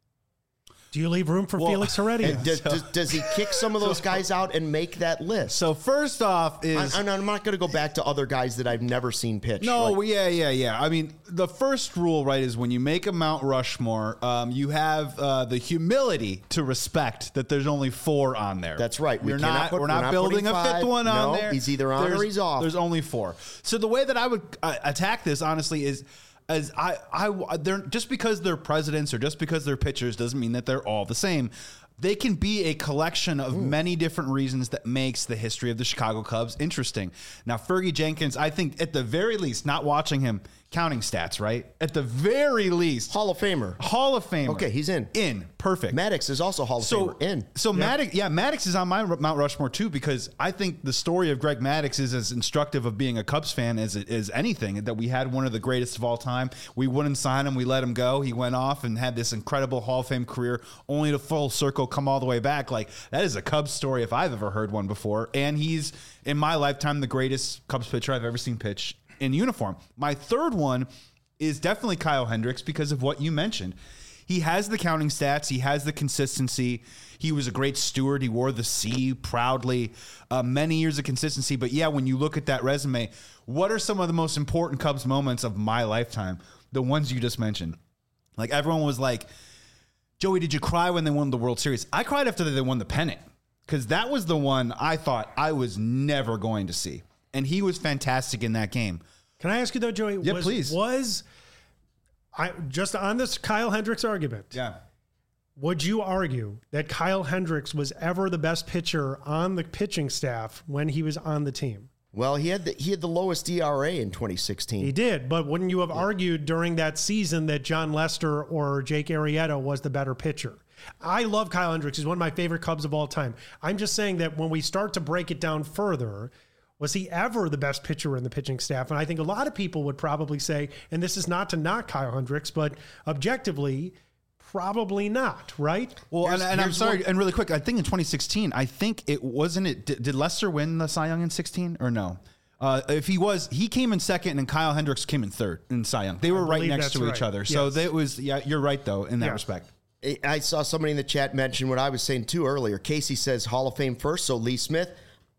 Do you leave room for Felix Heredia? Does he kick some of those guys out and make that list? So first off I'm not going to go back to other guys that I've never seen pitch. No, yeah. I mean, the first rule, right, is when you make a Mount Rushmore, you have the humility to respect that there's only 4 on there. That's right. We're not building a 5th one on there. He's either on or he's off. There's only 4. So the way that I would attack this, honestly, is they're just because they're presidents or just because they're pitchers doesn't mean that they're all the same. They can be a collection of many different reasons that makes the history of the Chicago Cubs interesting. Now, Fergie Jenkins, I think at the very least, not watching him, counting stats, right? At the very least. Hall of Famer. Okay, he's in. Perfect. Maddox is also Hall of Famer. In. So Maddox is on my Mount Rushmore too, because I think the story of Greg Maddux is as instructive of being a Cubs fan as it is anything, that we had one of the greatest of all time. We wouldn't sign him. We let him go. He went off and had this incredible Hall of Fame career, only to full circle come all the way back. Like, that is a Cubs story if I've ever heard one before. And he's, in my lifetime, the greatest Cubs pitcher I've ever seen pitch in uniform. My third one is definitely Kyle Hendricks because of what you mentioned. He has the counting stats. He has the consistency. He was a great steward. He wore the C proudly. Many years of consistency. But yeah, when you look at that resume, what are some of the most important Cubs moments of my lifetime? The ones you just mentioned. Like, everyone was like, Joey, did you cry when they won the World Series? I cried after they won the pennant, because that was the one I thought I was never going to see. And he was fantastic in that game. Can I ask you though, Joey? Yeah, please. I just on this Kyle Hendricks argument? Yeah. Would you argue that Kyle Hendricks was ever the best pitcher on the pitching staff when he was on the team? Well, he had the lowest ERA in 2016. He did, but wouldn't you have argued during that season that John Lester or Jake Arrieta was the better pitcher? I love Kyle Hendricks. He's one of my favorite Cubs of all time. I'm just saying that when we start to break it down further, was he ever the best pitcher in the pitching staff? And I think a lot of people would probably say, and this is not to knock Kyle Hendricks, but objectively, probably not, right? Well, and I'm sorry, and really quick, I think in 2016, did Lester win the Cy Young in 16 or no? If he was, he came in second and Kyle Hendricks came in third in Cy Young. They were right next to each other. So that was, you're right though, in that respect. I saw somebody in the chat mention what I was saying too earlier. Casey says Hall of Fame first, so Lee Smith.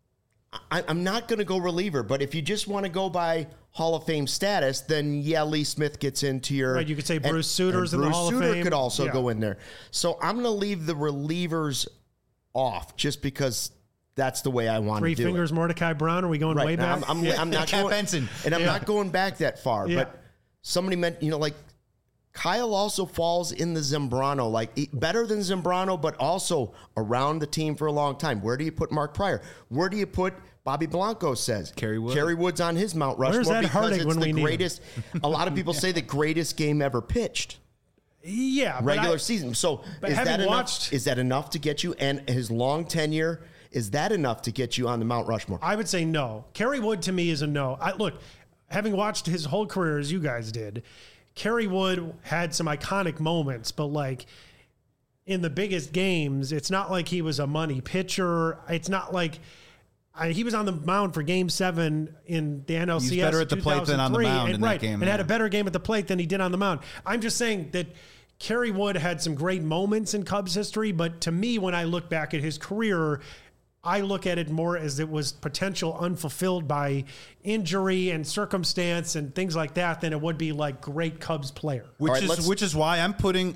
I'm not going to go reliever, but if you just want to go by Hall of Fame status, then Lee Smith gets into your... Right, you could say Bruce Suter's in the Hall of Fame. Bruce Suter could also go in there. So I'm going to leave the relievers off just because that's the way I want to do it. Three Fingers Mordecai Brown, are we going way back? I'm not going... Benson. And I'm not going back that far, but somebody meant, like... Kyle also falls in the Zambrano, like better than Zambrano, but also around the team for a long time. Where do you put Mark Pryor? Where do you put Bobby Blanco says? Kerry Wood. Kerry Wood's on his Mount Rushmore because it's the greatest. A lot of people say the greatest game ever pitched. Yeah, regular season. So is that enough? Is that enough to get you? And his long tenure, is that enough to get you on the Mount Rushmore? I would say no. Kerry Wood to me is a no. Look, having watched his whole career as you guys did, Kerry Wood had some iconic moments, but like in the biggest games, it's not like he was a money pitcher. It's not like he was on the mound for Game 7 in the NLCS. He's better at the plate than on the mound in that game. And had a better game at the plate than he did on the mound. I'm just saying that Kerry Wood had some great moments in Cubs history, but to me, when I look back at his career, I look at it more as it was potential unfulfilled by injury and circumstance and things like that than it would be like great Cubs player. Which is why I'm putting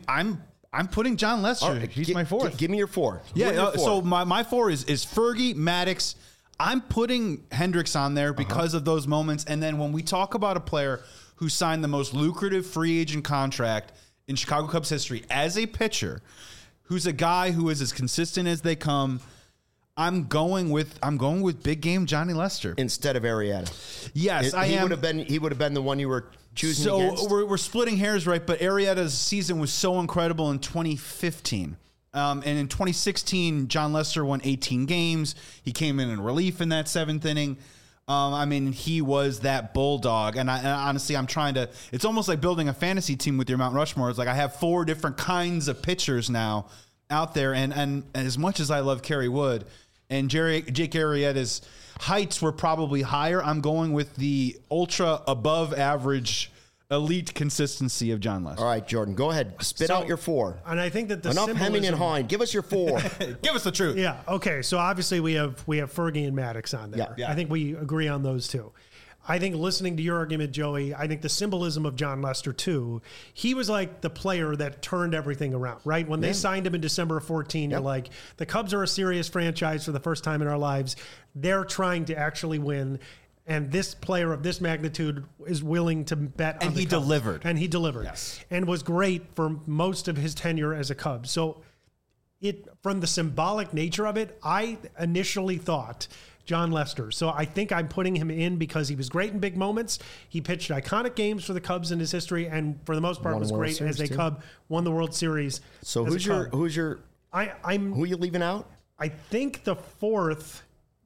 John Lester. Right, he's my fourth. Give me your four. So my four is Fergie, Maddox. I'm putting Hendricks on there because of those moments. And then when we talk about a player who signed the most lucrative free agent contract in Chicago Cubs history as a pitcher, who's a guy who is as consistent as they come, I'm going with big game Johnny Lester instead of Arrieta. Yes, I am. He would have been the one you were choosing against. So we're splitting hairs, right? But Arrieta's season was so incredible in 2015. And in 2016, John Lester won 18 games. He came in relief in that 7th inning. I mean, he was that bulldog. And honestly, I'm trying to. It's almost like building a fantasy team with your Mount Rushmore. It's like I have 4 different kinds of pitchers now out there. And as much as I love Kerry Wood and Jake Arrieta's heights were probably higher, I'm going with the ultra above average elite consistency of John Lester. All right, Jordan, go ahead. Spit out your 4. And I think that the enough hemming and hawing. Give us your 4. Give us the truth. Yeah. Okay. So obviously we have Fergie and Maddox on there. Yeah. I think we agree on those 2. I think listening to your argument, Joey, I think the symbolism of John Lester too. He was like the player that turned everything around, right? When they signed him in December of 14, you're like, the Cubs are a serious franchise for the first time in our lives. They're trying to actually win. And this player of this magnitude is willing to bet on the Cubs. And he delivered. Yes. And was great for most of his tenure as a Cub. So from the symbolic nature of it, I initially thought John Lester. So I think I'm putting him in because he was great in big moments. He pitched iconic games for the Cubs in his history, and for the most part was great as a Cub. Won the World Series. So who are you leaving out? I think the 4th.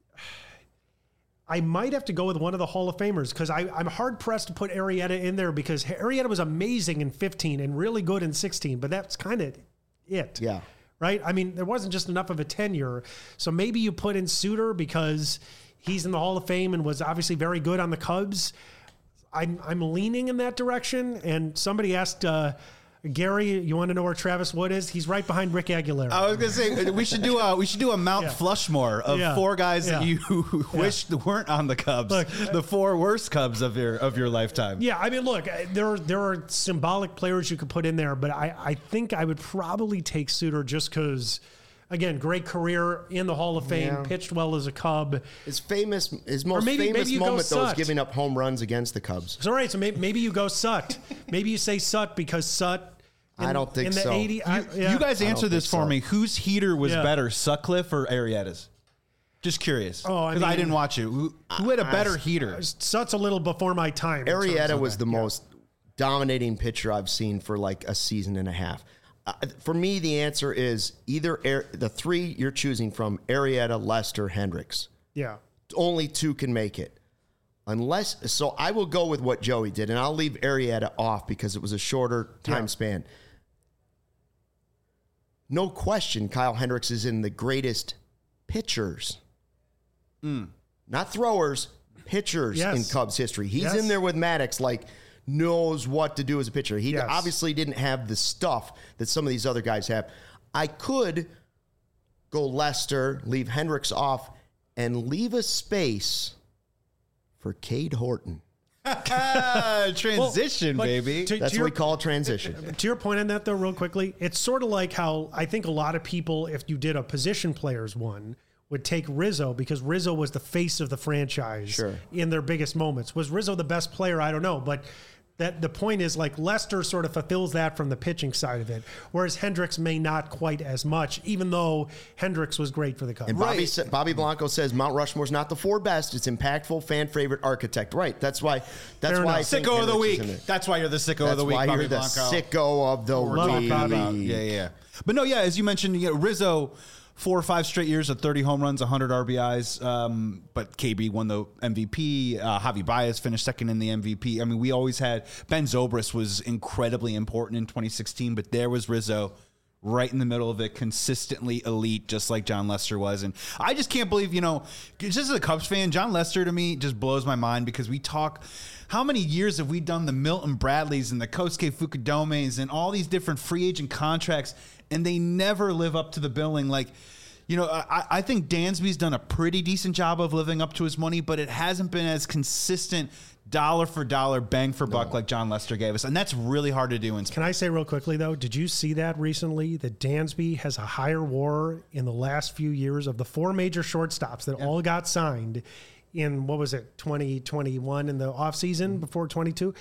I might have to go with one of the Hall of Famers because I'm hard pressed to put Arrieta in there because Arrieta was amazing in 15 and really good in 16, but that's kind of it. Yeah. Right? I mean, there wasn't just enough of a tenure. So maybe you put in Suter because he's in the Hall of Fame and was obviously very good on the Cubs. I'm leaning in that direction. And somebody asked Gary, you want to know where Travis Wood is? He's right behind Rick Aguilera. I was going to say we should do a Mount Flushmore of 4 guys that you wished weren't on the Cubs. Look, the 4 worst Cubs of your lifetime. Yeah, I mean, look, there are symbolic players you could put in there, but I think I would probably take Suter just because, again, great career in the Hall of Fame, pitched well as a Cub. His most famous moment though is giving up home runs against the Cubs. So, all right, so maybe you go Sut. Maybe you say Sut because Sut. I don't think so. You guys answer this for me. Whose heater was better, Sutcliffe or Arrieta's? Just curious. Because I didn't watch it. Who had a better heater? Sut's a little before my time. Arrieta was the most dominating pitcher I've seen for like a season and a half. For me, the answer is either the 3 you're choosing from, Arrieta, Lester, Hendricks. Yeah. Only 2 can make it. So I will go with what Joey did, and I'll leave Arrieta off because it was a shorter time span. No question, Kyle Hendricks is in the greatest pitchers. Not throwers, pitchers in Cubs history. He's in there with Maddox, knows what to do as a pitcher. He obviously didn't have the stuff that some of these other guys have. I could go Lester, leave Hendricks off, and leave a space for Cade Horton. Transition, baby. That's what we call transition. To your point on that, though, real quickly, it's sort of like how I think a lot of people, if you did a position players one, would take Rizzo because Rizzo was the face of the franchise in their biggest moments. Was Rizzo the best player? I don't know, but that the point is Lester sort of fulfills that from the pitching side of it, whereas Hendricks may not quite as much, even though Hendricks was great for the Cubs. And Bobby Blanco says Mount Rushmore's not the 4 best; it's impactful, fan favorite, architect. Right? That's why. That's why. Sicko of the week. That's why you're the sicko of the week. That's why Bobby you're the sicko of the week. Yeah. But no, as you mentioned, Rizzo. 4 or 5 straight years of 30 home runs, 100 RBIs. But KB won the MVP. Javi Baez finished second in the MVP. I mean, we always had Ben Zobrist was incredibly important in 2016, but there was Rizzo right in the middle of it, consistently elite, just like John Lester was. And I just can't believe, just as a Cubs fan, John Lester to me just blows my mind because we talk. How many years have we done the Milton Bradleys and the Kosuke Fukudomes and all these different free agent contracts, and they never live up to the billing? I think Dansby's done a pretty decent job of living up to his money, but it hasn't been as consistent dollar for dollar, bang for buck like John Lester gave us. And that's really hard to do. Can I say real quickly, though, did you see that recently? That Dansby has a higher WAR in the last few years of the 4 major shortstops that all got signed in, 2021 in the offseason before 22.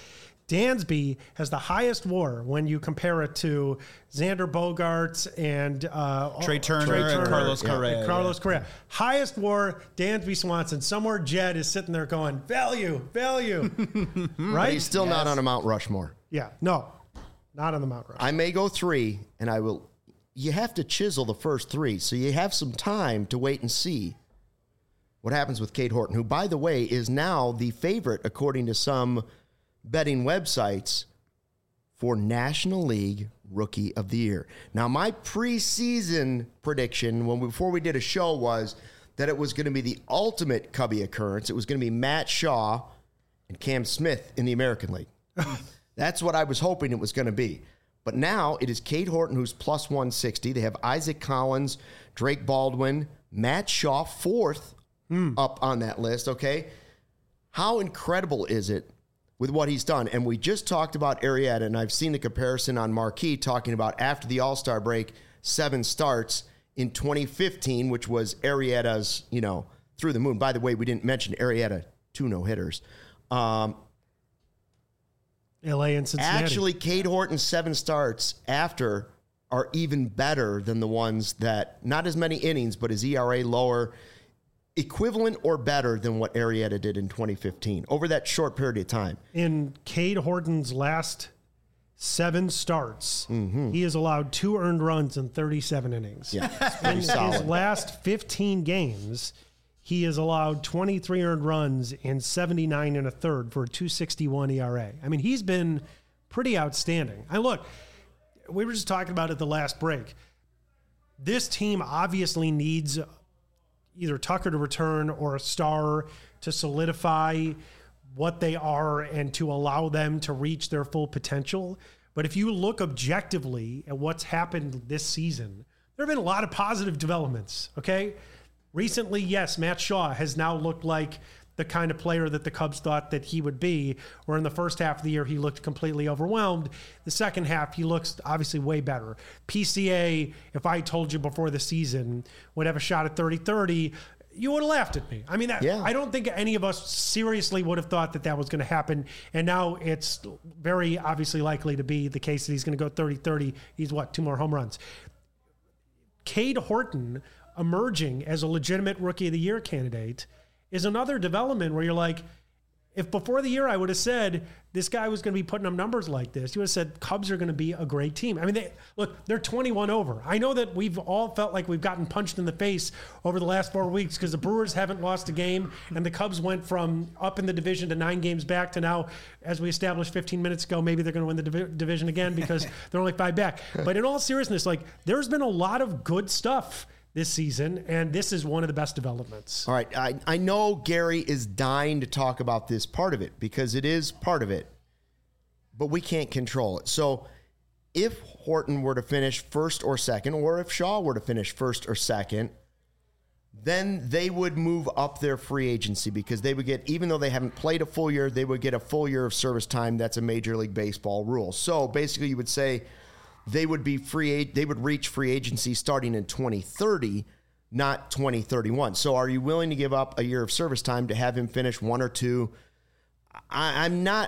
Dansby has the highest WAR when you compare it to Xander Bogaerts and Trey Turner and Carlos Correa. Carlos Correa. Highest WAR, Dansby Swanson. Somewhere Jed is sitting there going, value. Right? But he's still not on a Mount Rushmore. Yeah. No, not on the Mount Rushmore. I may go 3, and I will. You have to chisel the first 3, so you have some time to wait and see what happens with Cade Horton, who, by the way, is now the favorite, according to some betting websites, for National League Rookie of the Year. Now, my preseason prediction before we did a show was that it was going to be the ultimate Cubby occurrence. It was going to be Matt Shaw and Cam Smith in the American League. That's what I was hoping it was going to be. But now it is Cade Horton, who's plus 160. They have Isaac Collins, Drake Baldwin, Matt Shaw, 4th up on that list, okay? How incredible is it with what he's done? And we just talked about Arrieta, and I've seen the comparison on Marquee talking about after the All-Star break, 7 starts in 2015, which was Arrieta's, through the moon. By the way, we didn't mention Arrieta, 2 no-hitters. LA and Cincinnati. Actually, Cade Horton's 7 starts after are even better than the ones that, not as many innings, but his ERA lower, equivalent or better than what Arrieta did in 2015 over that short period of time. In Cade Horton's last 7 starts, he has allowed 2 earned runs in 37 innings. Yeah, in his last 15 games, he has allowed 23 earned runs in 79 1/3 for a 2.61 ERA. I mean, he's been pretty outstanding. And look, we were just talking about it the last break. This team obviously needs either Tucker to return or a star to solidify what they are and to allow them to reach their full potential. But if you look objectively at what's happened this season, there have been a lot of positive developments, okay? Recently, yes, Matt Shaw has now looked like the kind of player that the Cubs thought that he would be, where in the first half of the year, he looked completely overwhelmed. The second half, he looks obviously way better. PCA, if I told you before the season, would have a shot at 30-30, you would have laughed at me. I mean, I don't think any of us seriously would have thought that was going to happen. And now it's very obviously likely to be the case that he's going to go 30-30. He's 2 more home runs. Cade Horton emerging as a legitimate Rookie of the Year candidate is another development where you're like, if before the year I would have said this guy was going to be putting up numbers like this, you would have said Cubs are going to be a great team. I mean, they're 21 over. I know that we've all felt like we've gotten punched in the face over the last 4 weeks because the Brewers haven't lost a game and the Cubs went from up in the division to 9 games back to now, as we established 15 minutes ago, maybe they're going to win the division again because they're only 5 back. But in all seriousness, there's been a lot of good stuff this season, and this is one of the best developments. All right, I know Gary is dying to talk about this part of it because it is part of it, but we can't control it. So if Horton were to finish first or second, or if Shaw were to finish first or second, then they would move up their free agency because they would get, even though they haven't played a full year, they would get a full year of service time. That's a Major League Baseball rule. So basically you would say, they would be they would reach free agency starting in 2030, not 2031. So are you willing to give up a year of service time to have him finish 1 or 2? I'm not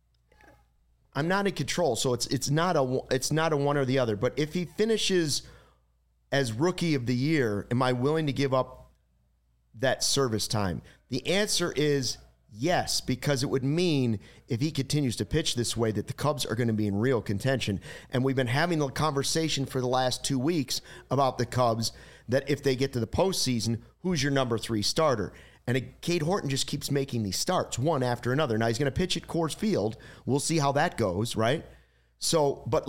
in control. So it's not a one or the other. But if he finishes as Rookie of the Year, am I willing to give up that service time? The answer is yes, because it would mean if he continues to pitch this way that the Cubs are going to be in real contention. And we've been having the conversation for the last 2 weeks about the Cubs that if they get to the postseason, who's your number 3 starter? And Cade Horton just keeps making these starts one after another. Now he's going to pitch at Coors Field. We'll see how that goes, right? So, but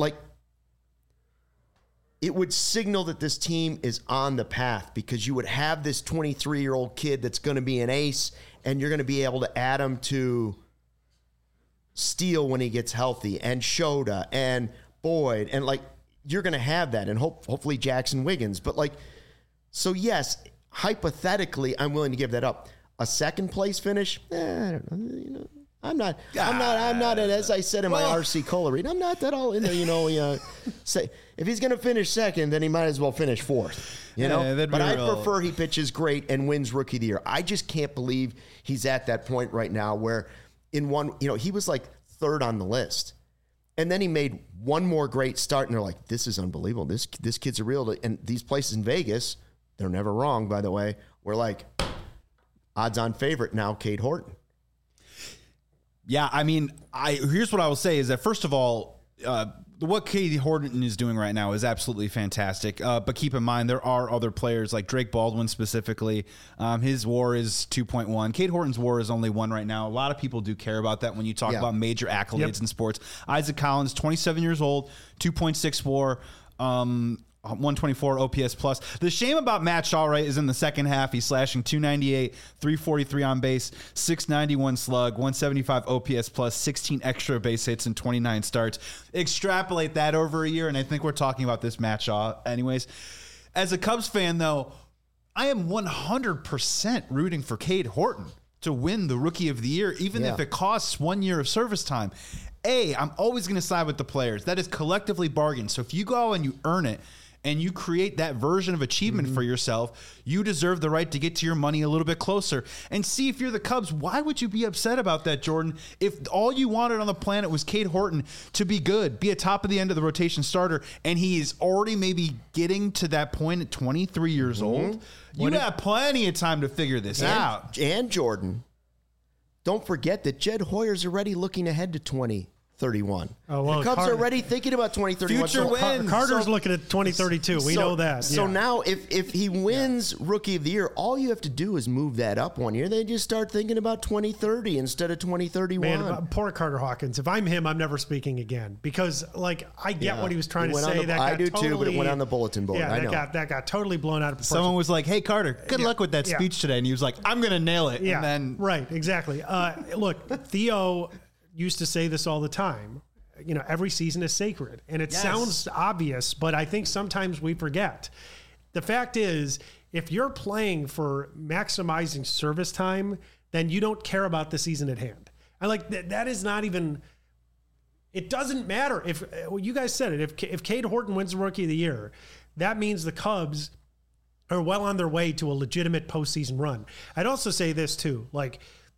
it would signal that this team is on the path because you would have this 23-year-old kid that's going to be an ace, and you're going to be able to add him to Steele when he gets healthy, and Shota, and Boyd, and you're going to have that, and hopefully Jackson Wiggins. But so yes, hypothetically, I'm willing to give that up. A second place finish, I don't know. I'm not, as I said in my RC Cola read, I'm not that all in there, say if he's going to finish second, then he might as well finish 4th, but I prefer he pitches great and wins Rookie of the Year. I just can't believe he's at that point right now where in one, he was third on the list. And then he made one more great start, and they're like, this is unbelievable. This kid's a real. And these places in Vegas, they're never wrong, by the way. We're like, odds-on favorite now, Cade Horton. Yeah, I mean, here's what I will say is that, first of all, what Cade Horton is doing right now is absolutely fantastic. But keep in mind, there are other players like Drake Baldwin specifically. His WAR is 2.1. Cade Horton's WAR is only 1 right now. A lot of people do care about that when you talk about major accolades in sports. Isaac Collins, 27 years old, 2.6 WAR. 124 OPS plus. The shame about Matt Shaw, right, is in the second half. He's slashing 298, 343 on base, 691 slug, 175 OPS plus, 16 extra base hits and 29 starts. Extrapolate that over a year, and I think we're talking about this Matt Shaw anyways. As a Cubs fan, though, I am 100% rooting for Cade Horton to win the Rookie of the Year, even if it costs 1 year of service time. I'm always going to side with the players. That is collectively bargained. So if you go and you earn it, and you create that version of achievement for yourself, you deserve the right to get to your money a little bit closer. And see, if you're the Cubs, why would you be upset about that, Jordan? If all you wanted on the planet was Cade Horton to be good, be a top of the end of the rotation starter, and he is already maybe getting to that point at 23 years old, you have plenty of time to figure this out. And Jordan, don't forget that Jed Hoyer's already looking ahead to 2031. Oh, well, the Cubs are already thinking about 2031. Future wins. Carter's looking at 2032. We know that. So now if he wins Rookie of the Year, all you have to do is move that up 1 year. They just start thinking about 2030 instead of 2031. Man, poor Carter Hawkins. If I'm him, I'm never speaking again because, like, I get what he was trying to say. I do too, but it went on the bulletin board. Yeah, I know. that got totally blown out of proportion. Someone was like, hey, Carter, good luck with that speech today. And he was like, I'm going to nail it. Yeah, and then right, exactly. Look, Theo used to say this all the time. You know, every season is sacred. And it sounds obvious, but I think sometimes we forget. The fact is, if you're playing for maximizing service time, then you don't care about the season at hand. And like that is not even, it doesn't matter if, well, you guys said it, if Cade Horton wins the Rookie of the Year, that means the Cubs are well on their way to a legitimate postseason run. I'd also say this too, like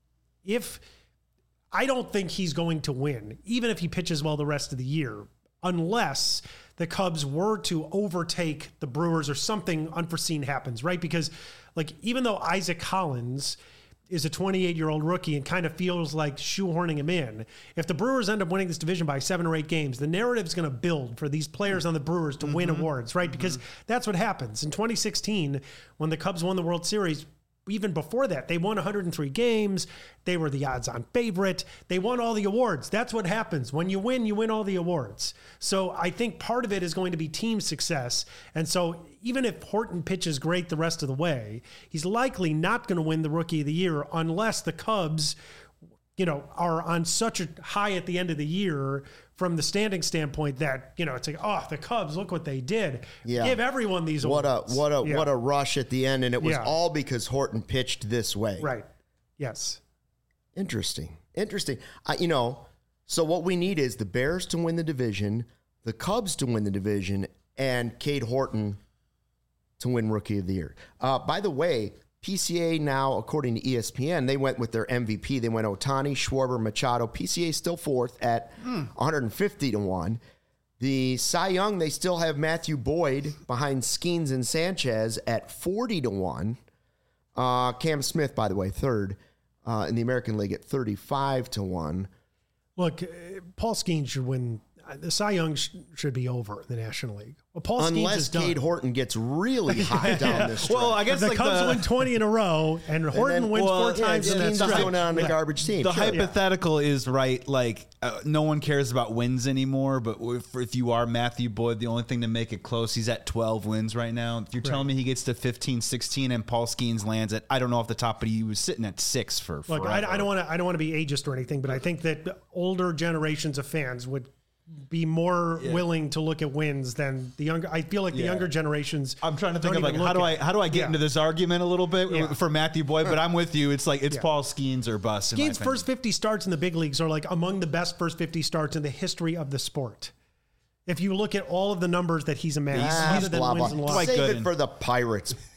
I don't think he's going to win, even if he pitches well the rest of the year, unless the Cubs were to overtake the Brewers or something unforeseen happens, right? Because, like, even though Isaac Collins is a 28-year-old rookie and kind of feels like shoehorning him in, if the Brewers end up winning this division by 7 or 8 games, the narrative is going to build for these players on the Brewers to win awards, right? Because that's what happens. In 2016, when the Cubs won the World Series, even before that, they won 103 games. They were the odds-on favorite. They won all the awards. That's what happens. When you win all the awards. So I think part of it is going to be team success. And so even if Horton pitches great the rest of the way, he's likely not going to win the Rookie of the Year unless the Cubs, are on such a high at the end of the year from the standing standpoint that, it's like, oh, the Cubs, look what they did. Yeah. Give everyone these awards. What a rush at the end. And it was all because Horton pitched this way. Right. Yes. Interesting. So what we need is the Bears to win the division, the Cubs to win the division, and Cade Horton to win Rookie of the Year. By the way, PCA now, according to ESPN, they went with their MVP. They went Ohtani, Schwarber, Machado. PCA still fourth at 150 to 1. The Cy Young, they still have Matthew Boyd behind Skeens and Sanchez at 40 to 1. Cam Smith, by the way, third in the American League at 35 to 1. Look, Paul Skeens should win. The Cy Young should be over in the National League. Well, Paul Skeens is done. Cade Horton gets really hot down this stretch. Well, I guess the Cubs win 20 in a row, and Horton wins 4 times in that stretch. Going on the garbage team. The hypothetical is right. Like no one cares about wins anymore. But if you are Matthew Boyd, the only thing to make it close, he's at 12 wins right now. If you're telling me he gets to 15, 16, and Paul Skeens lands at, I don't know off the top, but he was sitting at 6 for. Look, I don't want to be ageist or anything, but I think that older generations of fans would be more willing to look at wins than the younger. I feel like the younger generations. I'm trying to think of like how do I get into this argument a little bit for Matthew Boyd, but I'm with you. It's like it's Paul Skeens or bust. Skeens' first 50 starts in the big leagues are like among the best first 50 starts in the history of the sport. If you look at all of the numbers that he's amassed, other than wins and losses. Save it for the Pirates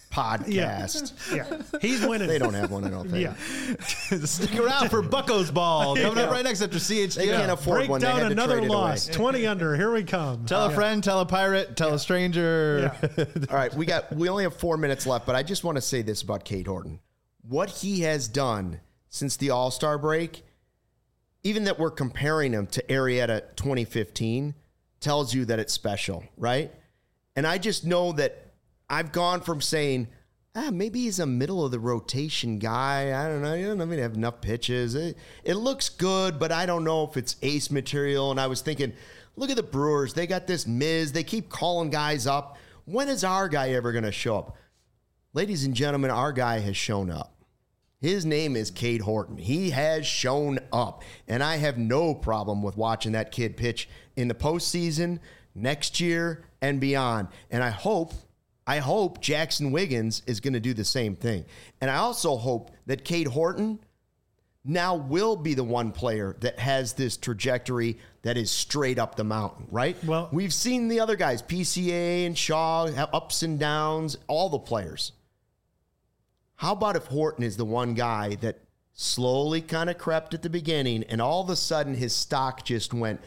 podcast. Yeah. He's winning. They don't have one, I don't think. Yeah. Stick around for Bucko's Ball coming up right next after CHGO. They can't afford Break one. They down had to another trade it loss. away. 20 under. Here we come. Tell a friend, tell a pirate, tell a stranger. Yeah. All right, we only have 4 minutes left, but I just want to say this about Cade Horton. What he has done since the All-Star break, even that we're comparing him to Arrieta 2015, tells you that it's special, right? And I just know that I've gone from saying, maybe he's a middle of the rotation guy. I don't know. He doesn't even have enough pitches. It looks good, but I don't know if it's ace material. And I was thinking, look at the Brewers. They got this Miz. They keep calling guys up. When is our guy ever going to show up? Ladies and gentlemen, our guy has shown up. His name is Cade Horton. He has shown up. And I have no problem with watching that kid pitch in the postseason, next year, and beyond. And I hope Jackson Wiggins is going to do the same thing. And I also hope that Cade Horton now will be the one player that has this trajectory that is straight up the mountain, right? Well, we've seen the other guys, PCA and Shaw, have ups and downs, all the players. How about if Horton is the one guy that slowly kind of crept at the beginning and all of a sudden his stock just went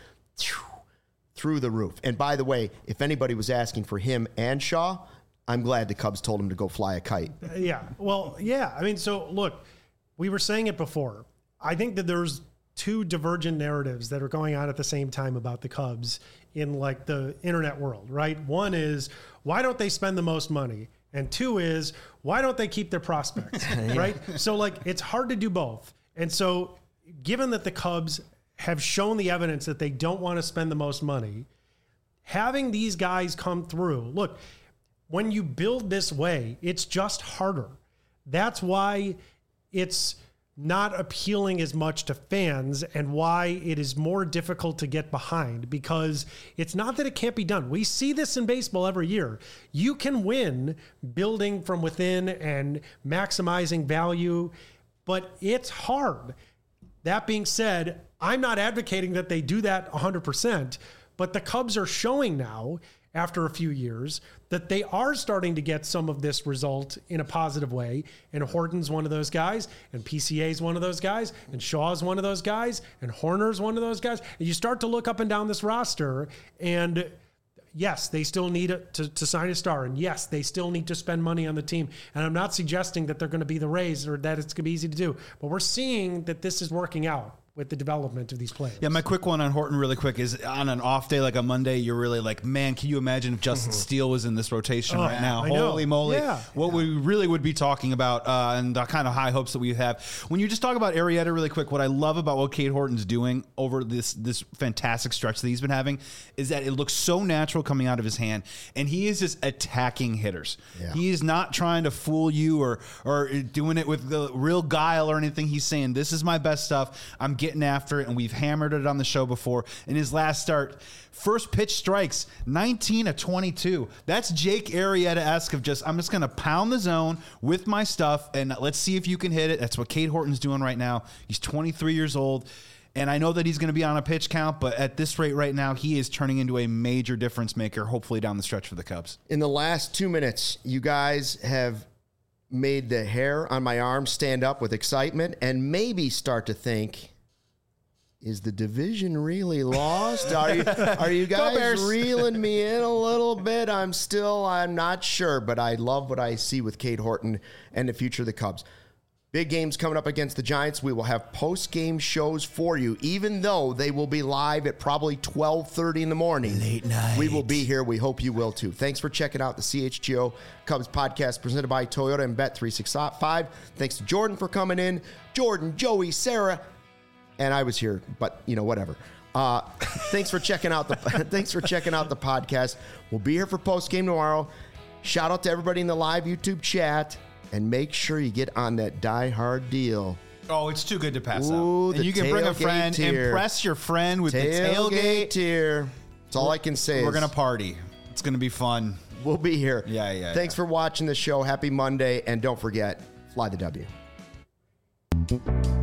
through the roof? And by the way, if anybody was asking for him and Shaw, I'm glad the Cubs told him to go fly a kite. Yeah. Well, yeah. I mean, so look, we were saying it before. I think that there's two divergent narratives that are going on at the same time about the Cubs in like the internet world, right? One is, why don't they spend the most money? And two is, why don't they keep their prospects, right? So like, it's hard to do both. And so given that the Cubs have shown the evidence that they don't want to spend the most money, having these guys come through, look, when you build this way, it's just harder. That's why it's not appealing as much to fans and why it is more difficult to get behind, because it's not that it can't be done. We see this in baseball every year. You can win building from within and maximizing value, but it's hard. That being said, I'm not advocating that they do that 100%, but the Cubs are showing now, after a few years, that they are starting to get some of this result in a positive way. And Horton's one of those guys, and PCA's one of those guys, and Shaw's one of those guys, and Horner's one of those guys. And you start to look up and down this roster, and yes, they still need to sign a star. And yes, they still need to spend money on the team. And I'm not suggesting that they're going to be the Rays or that it's going to be easy to do. But we're seeing that this is working out with the development of these players. Yeah, my quick one on Horton really quick is on an off day like a Monday, you're really like, man, can you imagine if Justin Steele was in this rotation right now? Holy moly. Yeah. What we really would be talking about and the kind of high hopes that we have. When you just talk about Arrieta really quick, what I love about what Cade Horton's doing over this fantastic stretch that he's been having is that it looks so natural coming out of his hand, and he is just attacking hitters. Yeah. He is not trying to fool you or doing it with the real guile or anything. He's saying, this is my best stuff. I'm getting after it, and we've hammered it on the show before. In his last start, first pitch strikes, 19 of 22. That's Jake Arrieta-esque of I'm just going to pound the zone with my stuff, and let's see if you can hit it. That's what Cade Horton's doing right now. He's 23 years old, and I know that he's going to be on a pitch count, but at this rate right now, he is turning into a major difference maker, hopefully down the stretch for the Cubs. In the last 2 minutes, you guys have made the hair on my arm stand up with excitement and maybe start to think, is the division really lost? Are you guys reeling me in a little bit? I'm not sure, but I love what I see with Cade Horton and the future of the Cubs. Big games coming up against the Giants. We will have post-game shows for you, even though they will be live at probably 12:30 in the morning. Late night. We will be here. We hope you will too. Thanks for checking out the CHGO Cubs podcast presented by Toyota and Bet365. Thanks to Jordan for coming in. Jordan, Joey, Sarah, and I was here, but whatever. Thanks for checking out the podcast. We'll be here for post game tomorrow. Shout out to everybody in the live YouTube chat, and make sure you get on that Die Hard deal. Oh, it's too good to pass up. And you can bring a friend, impress your friend with the tailgate tier. That's all I can say. We're gonna party. It's gonna be fun. We'll be here. Yeah. Thanks for watching the show. Happy Monday, and don't forget, fly the W.